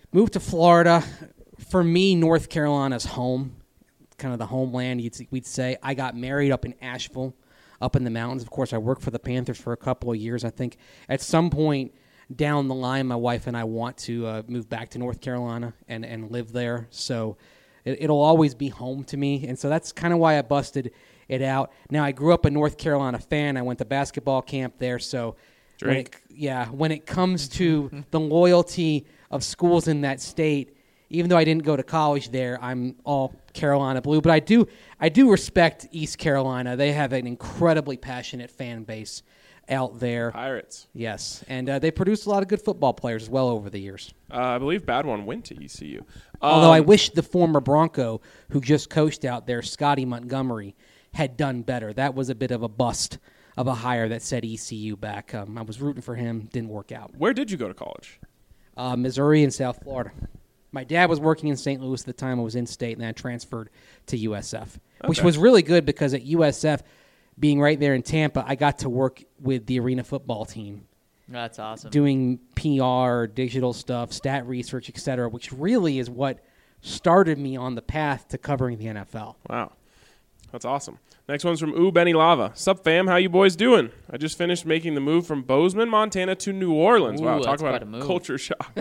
moved to Florida. For me, North Carolina's home, kind of the homeland, you'd, we'd say. I got married up in Asheville, up in the mountains. Of course, I worked for the Panthers for a couple of years. I think at some point down the line, my wife and I want to uh, move back to North Carolina and, and live there. So it, it'll always be home to me. And so that's kind of why I busted it out. Now, I grew up a North Carolina fan. I went to basketball camp there. So, when it, yeah, when it comes to the loyalty of schools in that state, even though I didn't go to college there, I'm all Carolina blue. But I do I do respect East Carolina. They have an incredibly passionate fan base out there. Pirates. Yes, and uh, they produce a lot of good football players as well over the years. Uh, I believe Bad One went to E C U. Um, Although I wish the former Bronco who just coached out there, Scotty Montgomery, had done better. That was a bit of a bust of a hire that said E C U back. Um, I was rooting for him. Didn't work out. Where did you go to college? Uh, Missouri and South Florida. My dad was working in Saint Louis at the time. I was in state, and then I transferred to U S F, okay. Which was really good because at U S F, being right there in Tampa, I got to work with the arena football team. That's awesome. Doing P R, digital stuff, stat research, et cetera, which really is what started me on the path to covering the N F L. Wow. That's awesome. Next one's from Ooh Benny Lava. Sup, fam? How you boys doing? I just finished making the move from Bozeman, Montana to New Orleans. Ooh, wow, talk about a, a culture shock.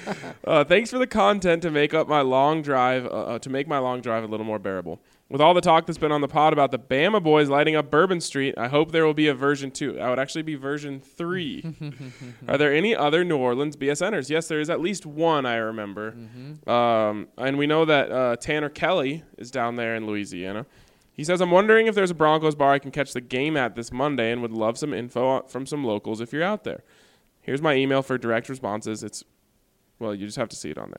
uh, thanks for the content to make up my long drive, uh, to make my long drive a little more bearable. With all the talk that's been on the pod about the Bama boys lighting up Bourbon Street, I hope there will be a version two. That would actually be version three. Are there any other New Orleans B S Ners? Yes, there is at least one, I remember. Mm-hmm. Um, and we know that uh, Tanner Kelly is down there in Louisiana. He says, I'm wondering if there's a Broncos bar I can catch the game at this Monday and would love some info from some locals if you're out there. Here's my email for direct responses. It's, well, you just have to see it on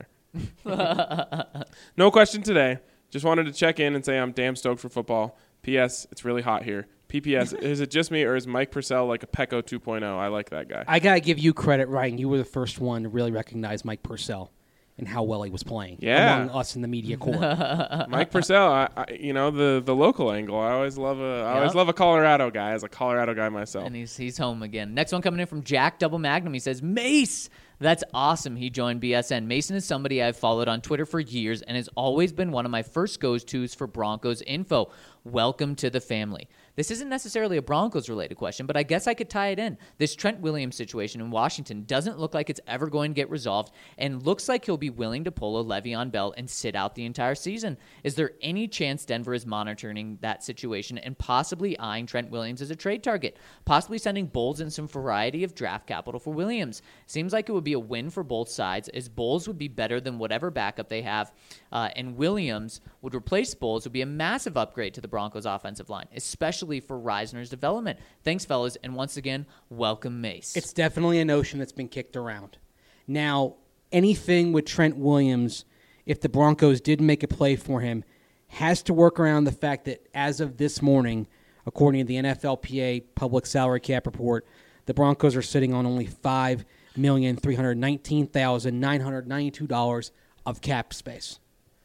there. No question today. Just wanted to check in and say I'm damn stoked for football. P S. It's really hot here. P P S. Is it just me or is Mike Purcell like a Pecco two point oh? I like that guy. I got to give you credit, Ryan. You were the first one to really recognize Mike Purcell and how well he was playing yeah. among us in the media corps. Mike Purcell, I, I, you know, the, the local angle. I always love a I yep. always love a Colorado guy as a Colorado guy myself. And he's he's home again. Next one coming in from Jack Double Magnum. He says, Mace, that's awesome. He joined B S N. Mason is somebody I've followed on Twitter for years and has always been one of my first goes-tos for Broncos info. Welcome to the family. This isn't necessarily a Broncos-related question, but I guess I could tie it in. This Trent Williams situation in Washington doesn't look like it's ever going to get resolved and looks like he'll be willing to pull a Le'Veon Bell and sit out the entire season. Is there any chance Denver is monitoring that situation and possibly eyeing Trent Williams as a trade target, possibly sending Bowles in some variety of draft capital for Williams? Seems like it would be a win for both sides, as Bowles would be better than whatever backup they have, uh, and Williams would replace Bowles, would be a massive upgrade to the Broncos offensive line, especially for Reisner's development. Thanks, fellas, and once again, welcome Mace. It's definitely a notion that's been kicked around. Now, anything with Trent Williams, if the Broncos did make a play for him, has to work around the fact that as of this morning, according to the N F L P A public salary cap report, the Broncos are sitting on only five million three hundred nineteen thousand nine hundred ninety-two dollars of cap space.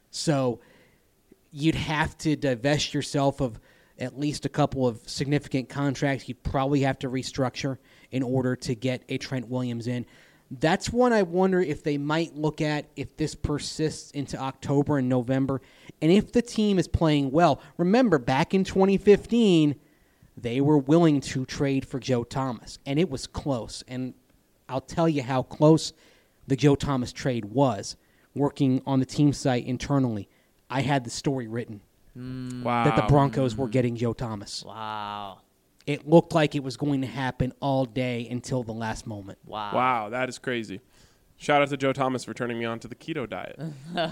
So you'd have to divest yourself of at least a couple of significant contracts you'd probably have to restructure in order to get a Trent Williams in. That's one I wonder if they might look at if this persists into October and November. And if the team is playing well, remember back in twenty fifteen, they were willing to trade for Joe Thomas, and it was close. And I'll tell you how close the Joe Thomas trade was. Working on the team site internally, I had the story written. Wow. That the Broncos were getting Joe Thomas. Wow. It looked like it was going to happen all day until the last moment. Wow. Wow, that is crazy. Shout out to Joe Thomas for turning me on to the keto diet.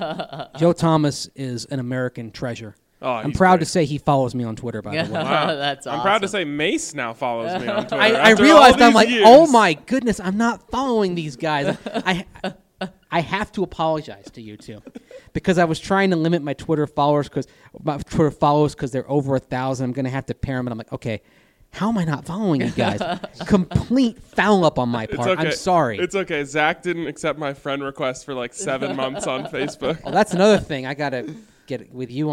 Joe Thomas is an American treasure. Oh, I'm he's proud great. to say he follows me on Twitter, by the way. Wow. That's awesome. I'm proud to say Mace now follows me on Twitter. I, I After realized all I'm these like, years. oh my goodness, I'm not following these guys. I I have to apologize to you two because I was trying to limit my Twitter followers because my Twitter follows because they're over a thousand. I'm going to have to pair them, and I'm like, okay, how am I not following you guys? Complete foul up on my It's part. okay. I'm sorry. It's okay. Zach didn't accept my friend request for like seven months on Facebook. Well, that's another thing. I got to get with you on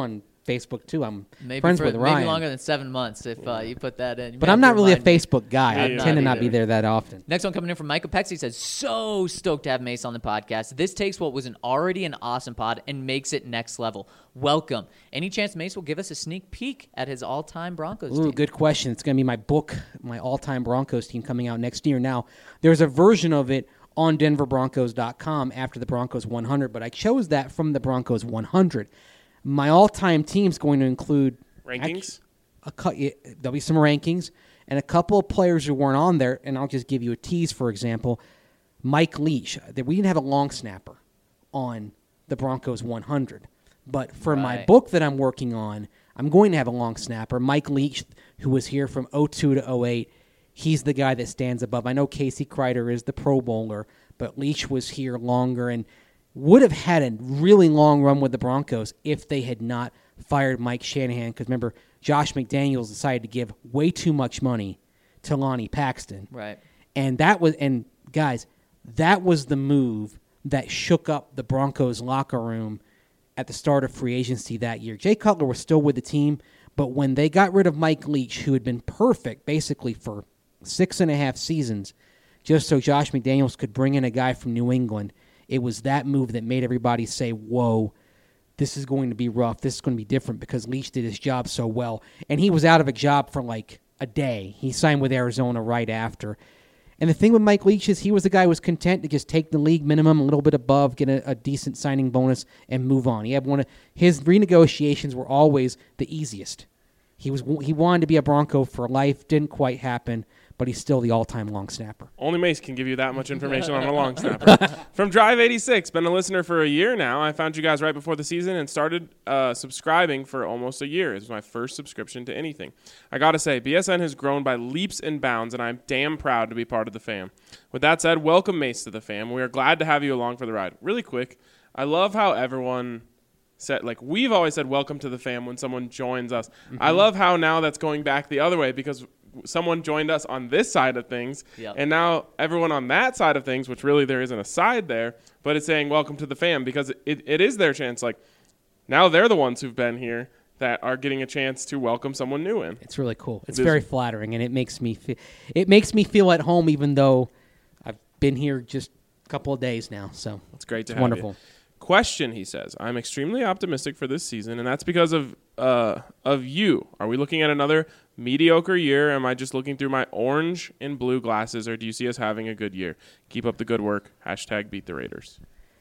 Facebook too. I'm Maybe friends for, with Ryan. Maybe longer than seven months if uh, you put that in. You But may I'm have not to really a remind me. Facebook guy. Me I either. tend to Not not be either. there that often. Next one coming in from Michael Pexi says, so stoked to have Mace on the podcast. This takes what was an already an awesome pod and makes it next level. Welcome. Any chance Mace will give us a sneak peek at his all-time Broncos Ooh, team? good question. It's going to be my book, my all-time Broncos team coming out next year. Now, there's a version of it on denver broncos dot com after the Broncos one hundred, but I chose that from the Broncos one hundred. My all-time team's going to include Rankings? A cu- yeah, there'll be some rankings and a couple of players who weren't on there, and I'll just give you a tease, for example. Mike Leach. We didn't have a long snapper on the Broncos one hundred, but for my Right. book that I'm working on, I'm going to have a long snapper. Mike Leach, who was here from oh two to oh eight, he's the guy that stands above. I know Casey Kreider is the Pro Bowler, but Leach was here longer and would have had a really long run with the Broncos if they had not fired Mike Shanahan. Because remember, Josh McDaniels decided to give way too much money to Lonnie Paxton. Right. And that was, and guys, that was the move that shook up the Broncos locker room at the start of free agency that year. Jay Cutler was still with the team, but when they got rid of Mike Leach, who had been perfect basically for six and a half seasons, just so Josh McDaniels could bring in a guy from New England, it was that move that made everybody say, whoa, this is going to be rough. This is going to be different because Leach did his job so well. And he was out of a job for like a day. He signed with Arizona right after. And the thing with Mike Leach is he was the guy who was content to just take the league minimum, a little bit above, get a, a decent signing bonus, and move on. He had one of his renegotiations were always the easiest. He was he wanted to be a Bronco for life. Didn't quite happen, but he's still the all-time long snapper. Only Mace can give you that much information on a long snapper. From Drive eighty-six, been a listener for a year now. I found you guys right before the season and started uh, subscribing for almost a year. It was my first subscription to anything. I got to say, B S N has grown by leaps and bounds, and I'm damn proud to be part of the fam. With that said, welcome Mace to the fam. We are glad to have you along for the ride. Really quick, I love how everyone said, like, we've always said welcome to the fam when someone joins us. Mm-hmm. I love how now that's going back the other way because someone joined us on this side of things, Yep. and now everyone on that side of things, which really there isn't a side there, but it's saying welcome to the fam because it, it is their chance. Like, now they're the ones who've been here that are getting a chance to welcome someone new in. It's really cool. It's It is. very flattering, and it makes me feel, it makes me feel at home, even though I've been here just a couple of days now. So It's great to it's have wonderful. you. Question, he says, I'm extremely optimistic for this season, and that's because of uh, of you. Are we looking at another mediocre year? Am I just looking through my orange and blue glasses, or do you see us having a good year? Keep up the good work. Hashtag beat the Raiders.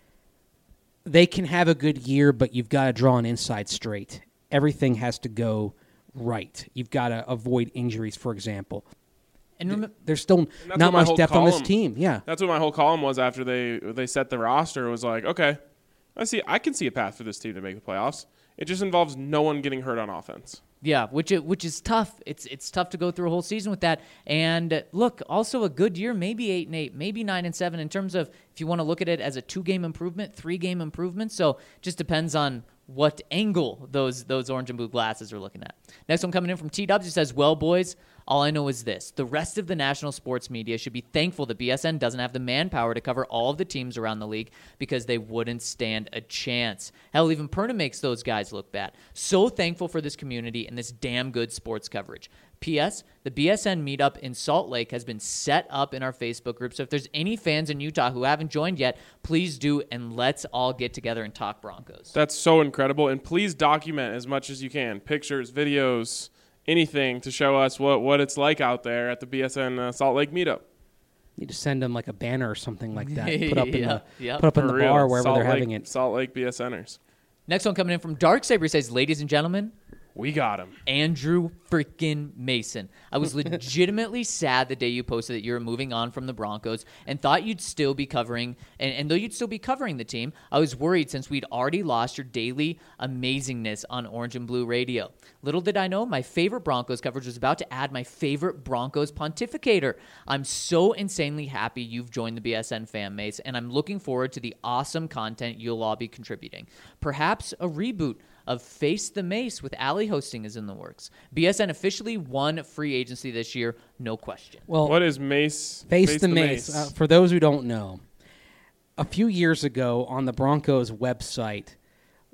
They can have a good year, but you've got to draw an inside straight. Everything has to go right. You've got to avoid injuries, for example. And rem- There's still that's not what my much whole depth on this column- team. Yeah. That's what my whole column was after they they set the roster. It was like, okay, I see. I can see a path for this team to make the playoffs. It just involves no one getting hurt on offense. Yeah, which it, which is tough. It's it's tough to go through a whole season with that. And uh, look, also a good year, maybe eight and eight, maybe nine and seven in terms of if you want to look at it as a two game improvement, three game improvement. So just depends on what angle those those orange and blue glasses are looking at. Next one coming in from T Dubs, who says, "Well, boys, all I know is this. The rest of the national sports media should be thankful that B S N doesn't have the manpower to cover all of the teams around the league because they wouldn't stand a chance. Hell, even Perna makes those guys look bad. So thankful for this community and this damn good sports coverage. P S. The B S N meetup in Salt Lake has been set up in our Facebook group, so if there's any fans in Utah who haven't joined yet, please do, and let's all get together and talk Broncos." That's so incredible. And please document as much as you can. Pictures, videos, anything to show us what, what it's like out there at the B S N uh, Salt Lake meetup. You just send them like a banner or something like that. Put up in Yeah, the yeah. put up in For the real. bar wherever Salt they're Lake, having it. Salt Lake BSNers. Next one coming in from Darksaber says, "Ladies and gentlemen, We got him. Andrew freaking Mason. I was legitimately sad the day you posted that you were moving on from the Broncos and thought you'd still be covering, and, and though you'd still be covering the team, I was worried since we'd already lost your daily amazingness on Orange and Blue Radio. Little did I know, my favorite Broncos coverage was about to add my favorite Broncos pontificator. I'm so insanely happy you've joined the B S N fan base, and I'm looking forward to the awesome content you'll all be contributing. Perhaps a reboot of Face the Mace with Allie hosting is in the works. B S N officially won free agency this year, no question. Well, What is Mace? Face, the, Mace. Uh, for those who don't know, a few years ago on the Broncos website,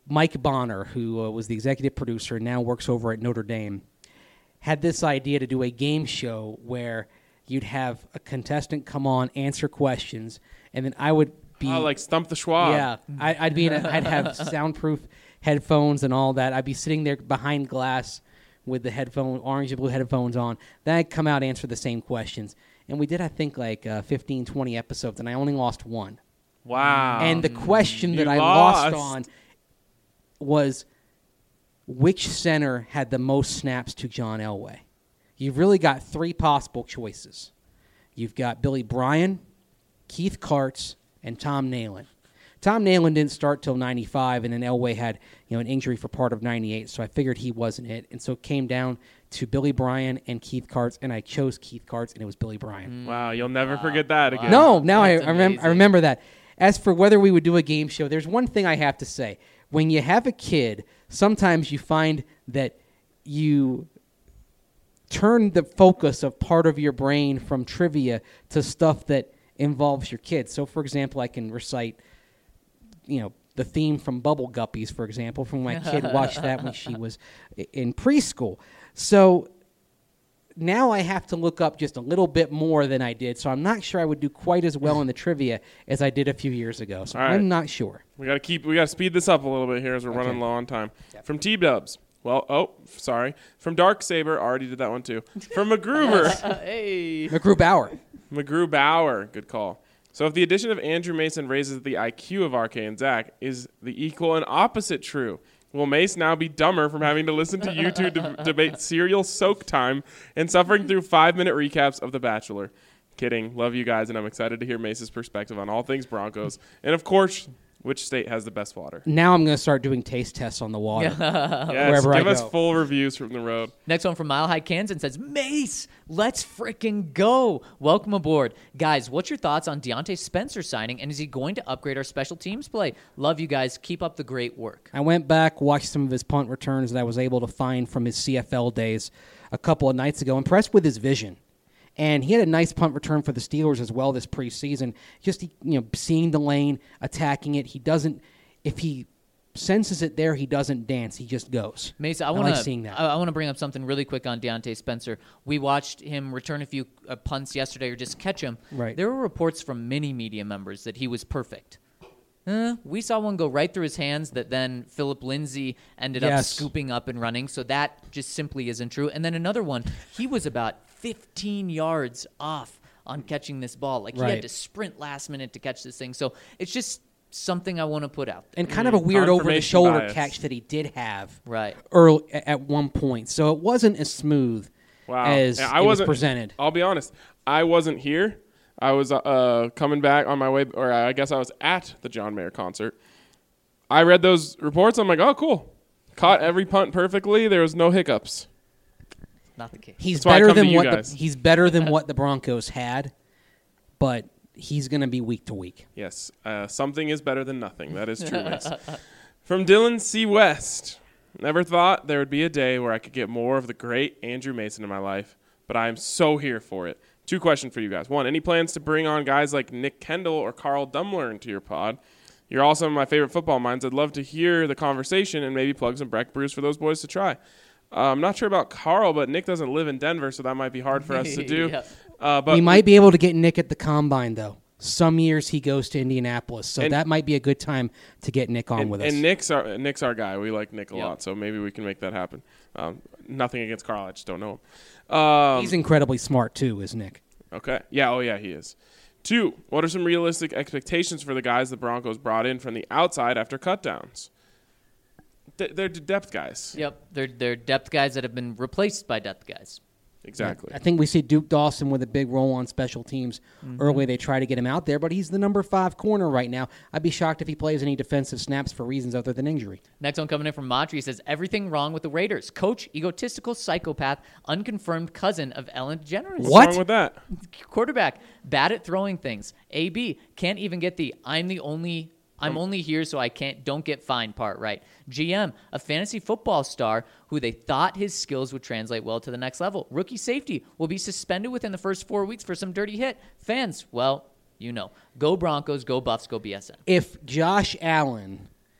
Mike Bonner, who uh, was the executive producer and now works over at Notre Dame, had this idea to do a game show where you'd have a contestant come on, answer questions, and then I would be Oh, like Stump the Schwab. yeah, I, I'd be in a, I'd have soundproof headphones and all that. I'd be sitting there behind glass with the headphone, orange and blue headphones on. Then I'd come out, answer the same questions. And we did, I think, like uh, fifteen, twenty episodes, and I only lost one. Wow. And the question that You I lost. lost. on was which center had the most snaps to John Elway. You've really got three possible choices. You've got Billy Bryan, Keith Karts, and Tom Nalen. Tom Nalen didn't start till ninety-five, and then Elway had you know an injury for part of ninety-eight, so I figured he wasn't it. And so it came down to Billy Bryan and Keith Karts, and I chose Keith Karts, and it was Billy Bryan. Wow, you'll never forget that again. No, now I, That's I, remem- I amazing. remember that. As for whether we would do a game show, there's one thing I have to say. When you have a kid, sometimes you find that you turn the focus of part of your brain from trivia to stuff that involves your kid. So, for example, I can recite, you know, the theme from Bubble Guppies, for example, from when my kid watched that when she was i- in preschool. So now I have to look up just a little bit more than I did. So I'm not sure I would do quite as well in the trivia as I did a few years ago. So All right. I'm not sure. We gotta keep. We gotta speed this up a little bit here as we're Okay. running low on time. From T Dubs. Well, oh, sorry. From Dark Saber, already did that one too. From McGruber, Hey. McGrew Bauer. McGrew Bauer, good call. So if the addition of Andrew Mason raises the I Q of R K and Zach, is the equal and opposite true? Will Mace now be dumber from having to listen to you two de- debate serial soak time and suffering through five-minute recaps of The Bachelor? Kidding. Love you guys, and I'm excited to hear Mace's perspective on all things Broncos. And, of course, which state has the best water? Now I'm going to start doing taste tests on the water. Yes, Wherever I give us go. full reviews from the road. Next one from Mile High Kansas says, Mace, let's frickin' go. Welcome aboard. Guys, what's your thoughts on Deontay Spencer signing, and is he going to upgrade our special teams play? Love you guys. Keep up the great work. I went back, watched some of his punt returns that I was able to find from his C F L days a couple of nights ago. Impressed with his vision. And he had a nice punt return for the Steelers as well this preseason. Just, you know, seeing the lane, attacking it. He doesn't, if he senses it there, he doesn't dance. He just goes. Mace, I I want like to seeing that. I, I want to bring up something really quick on Deontay Spencer. We watched him return a few uh, punts yesterday, or just catch him. Right. There were reports from many media members that he was perfect. Uh, we saw one go right through his hands that then Philip Lindsay ended up Yes. scooping up and running. So that just simply isn't true. And then another one, he was about fifteen yards off on catching this ball. Like he Right. had to sprint last minute to catch this thing. So it's just something I want to put out there. And kind of a weird over-the-shoulder Confirmation bias. catch that he did have Right. early at one point. So it wasn't as smooth Wow. as Yeah, I it was wasn't- presented. I'll be honest. I wasn't here. I was uh, coming back on my way, or I guess I was at the John Mayer concert. I read those reports. I'm like, oh, cool. Caught every punt perfectly. There was no hiccups. Not the case. He's That's why I better come to than you what guys. the, he's better than what the Broncos had, but he's going to be week to week. Yes, uh, something is better than nothing. That is true. Mace. From Dylan C. West. Never thought there would be a day where I could get more of the great Andrew Mason in my life, but I am so here for it. Two questions for you guys. One, any plans to bring on guys like Nick Kendall or Carl Dumler into your pod? You're all some of my favorite football minds. I'd love to hear the conversation and maybe plug some Breck brews for those boys to try. Uh, I'm not sure about Carl, but Nick doesn't live in Denver, so that might be hard for us to do. Yep. uh, but we might be able to get Nick at the Combine, though. Some years he goes to Indianapolis, so And- that might be a good time to get Nick on and, with us. and Nick's our Nick's our guy. We like Nick a Yep. lot, so maybe we can make that happen. Um, nothing against Carl, I just don't know him. Um, He's incredibly smart, too, is Nick. Okay. Yeah. Oh, yeah. He is. Two. What are some realistic expectations for the guys the Broncos brought in from the outside after cutdowns? Th- they're depth guys. Yep, they're they're depth guys that have been replaced by depth guys. Exactly. I think we see Duke Dawson with a big role on special teams. Mm-hmm. Early, they try to get him out there, but he's the number five corner right now. I'd be shocked if he plays any defensive snaps for reasons other than injury. Next one coming in from Matri says everything wrong with the Raiders. Coach, egotistical psychopath, unconfirmed cousin of Ellen DeGeneres. What's What? wrong with that? Quarterback, bad at throwing things. A B can't even get the I'm the only I'm only here so I can't don't get fined part right. G M, a fantasy football star who they thought his skills would translate well to the next level. Rookie safety will be suspended within the first four weeks for some dirty hit. Fans, well, you know, go Broncos, go Buffs, go B S N. If Josh Allen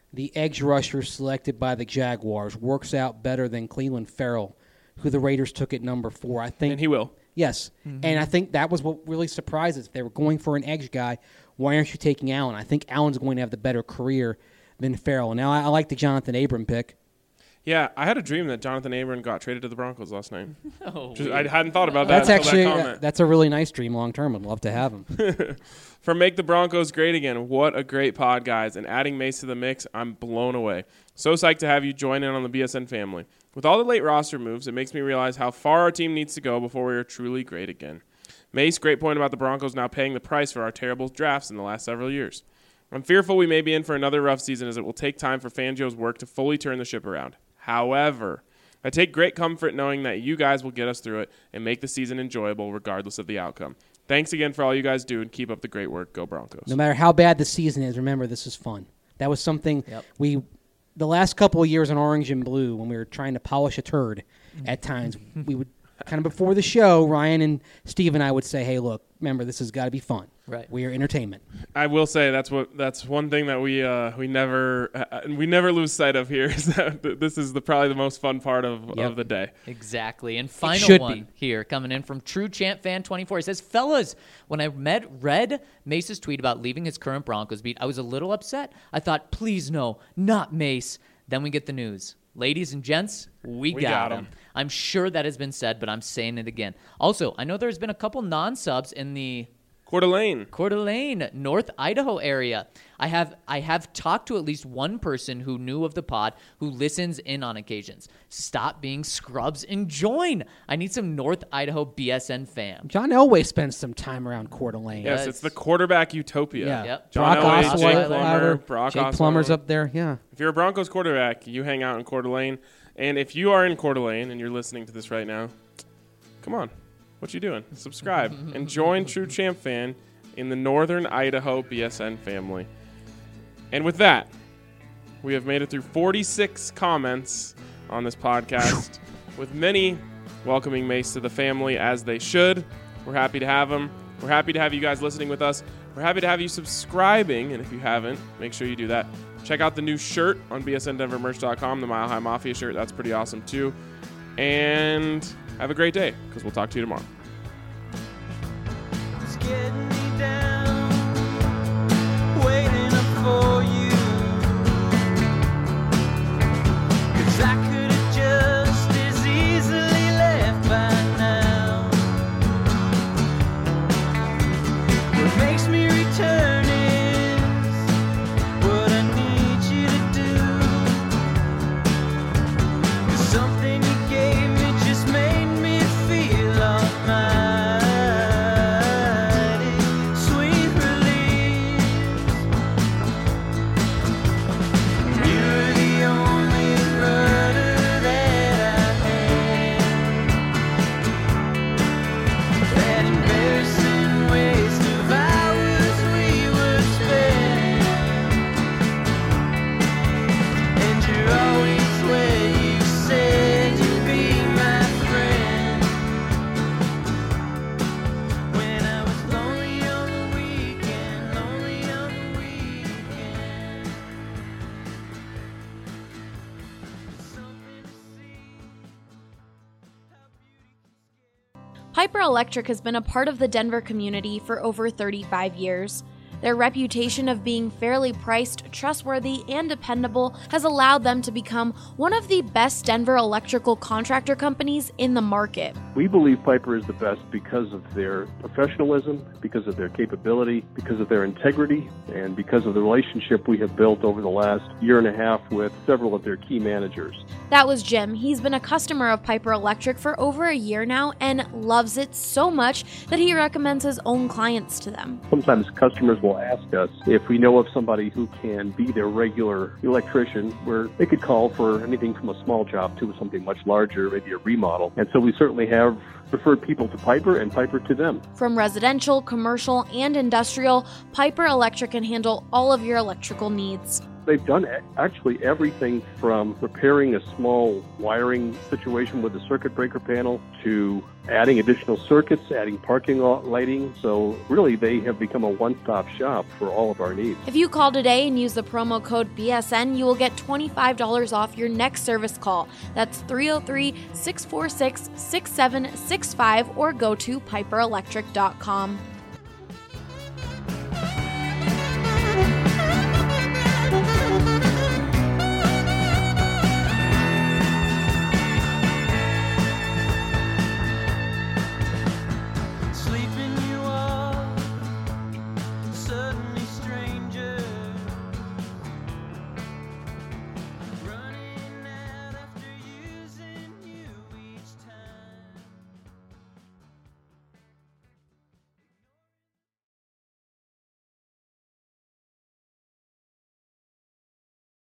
the edge rusher selected by the Jaguars works out better than Cleveland Farrell, who the Raiders took at number four. I think, And he will. Yes, mm-hmm. and I think that was what really surprised us. If they were going for an edge guy, why aren't you taking Allen? I think Allen's going to have the better career than Farrell. Now, I, I like the Jonathan Abram pick. Yeah, I had a dream that Jonathan Abram got traded to the Broncos last night. Oh, Just, I hadn't thought about that That's until actually that uh, comment. that's a really nice dream long term. I'd love to have him. From Make the Broncos Great Again, what a great pod, guys. And adding Mace to the mix, I'm blown away. So psyched to have you join in on the B S N family. With all the late roster moves, it makes me realize how far our team needs to go before we are truly great again. Mace, great point about the Broncos now paying the price for our terrible drafts in the last several years. I'm fearful we may be in for another rough season as it will take time for Fangio's work to fully turn the ship around. However, I take great comfort knowing that you guys will get us through it and make the season enjoyable regardless of the outcome. Thanks again for all you guys do and keep up the great work. Go Broncos. No matter how bad the season is, remember, this is fun. That was something Yep. we, the last couple of years in Orange and Blue, when we were trying to polish a turd at times, we would, kind of before the show, Ryan and Steve and I would say, hey, look, remember, this has got to be fun. Right. We are entertainment. I will say that's what that's one thing that we uh, we never uh, we never lose sight of here is that th- this is the probably the most fun part of, Yep. of the day. Exactly. And final should one be. here coming in from True Champ Fan twenty-four. He says, fellas, when I met, read Mace's tweet about leaving his current Broncos beat, I was a little upset. I thought, please no, not Mace. Then we get the news. Ladies and gents, we, We got, got him. 'em. I'm sure that has been said, but I'm saying it again. Also, I know there's been a couple non-subs in the Coeur d'Alene. Coeur d'Alene, North Idaho area. I have I have talked to at least one person who knew of the pod who listens in on occasions. Stop being scrubs and join. I need some North Idaho B S N fam. John Elway spends some time around Coeur d'Alene. Yes, Yes. it's the quarterback utopia. Yeah. Yep. John Brock Elway, Osweiler, Jake Plummer, Brock Jake Osweiler. Plummer's up there. Yeah. If you're a Broncos quarterback, you hang out in Coeur d'Alene. And if you are in Coeur d'Alene and you're listening to this right now, come on. What you doing? Subscribe and join True Champ Fan in the Northern Idaho B S N family. And with that, we have made it through forty-six comments on this podcast, with many welcoming Mace to the family as they should. We're happy to have him. We're happy to have you guys listening with us. We're happy to have you subscribing, and if you haven't, make sure you do that. Check out the new shirt on B S N Denver Merch dot com, the Mile High Mafia shirt. That's pretty awesome, too. And have a great day, because we'll talk to you tomorrow. It's getting me down, waiting up for you. 'Cause I could have just as easily left by now. What makes me return is what I need you to do. 'Cause something you gave me just made me feel almighty. Sweet release. You're the only rudder that I had. That embarrassing waste of hours we were spent. And you're always where you said you'd be my friend. When I was lonely on the weekend, lonely on the weekend. Something to see. Piper Electric has been a part of the Denver community for over thirty-five years. Their reputation of being fairly priced, trustworthy, and dependable has allowed them to become one of the best Denver electrical contractor companies in the market. We believe Piper is the best because of their professionalism, because of their capability, because of their integrity, and because of the relationship we have built over the last year and a half with several of their key managers. That was Jim. He's been a customer of Piper Electric for over a year now and loves it so much that he recommends his own clients to them. Sometimes customers will ask us if we know of somebody who can be their regular electrician, where they could call for anything from a small job to something much larger, maybe a remodel. And so we certainly have referred people to Piper and Piper to them. From residential, commercial, and industrial, Piper Electric can handle all of your electrical needs. they've done actually everything from repairing a small wiring situation with the circuit breaker panel to adding additional circuits, adding parking lot lighting. So really, they have become a one-stop shop for all of our needs. If you call today and use the promo code B S N, you will get twenty-five dollars off your next service call. That's three oh three, six four six, six seven six five or go to piper electric dot com.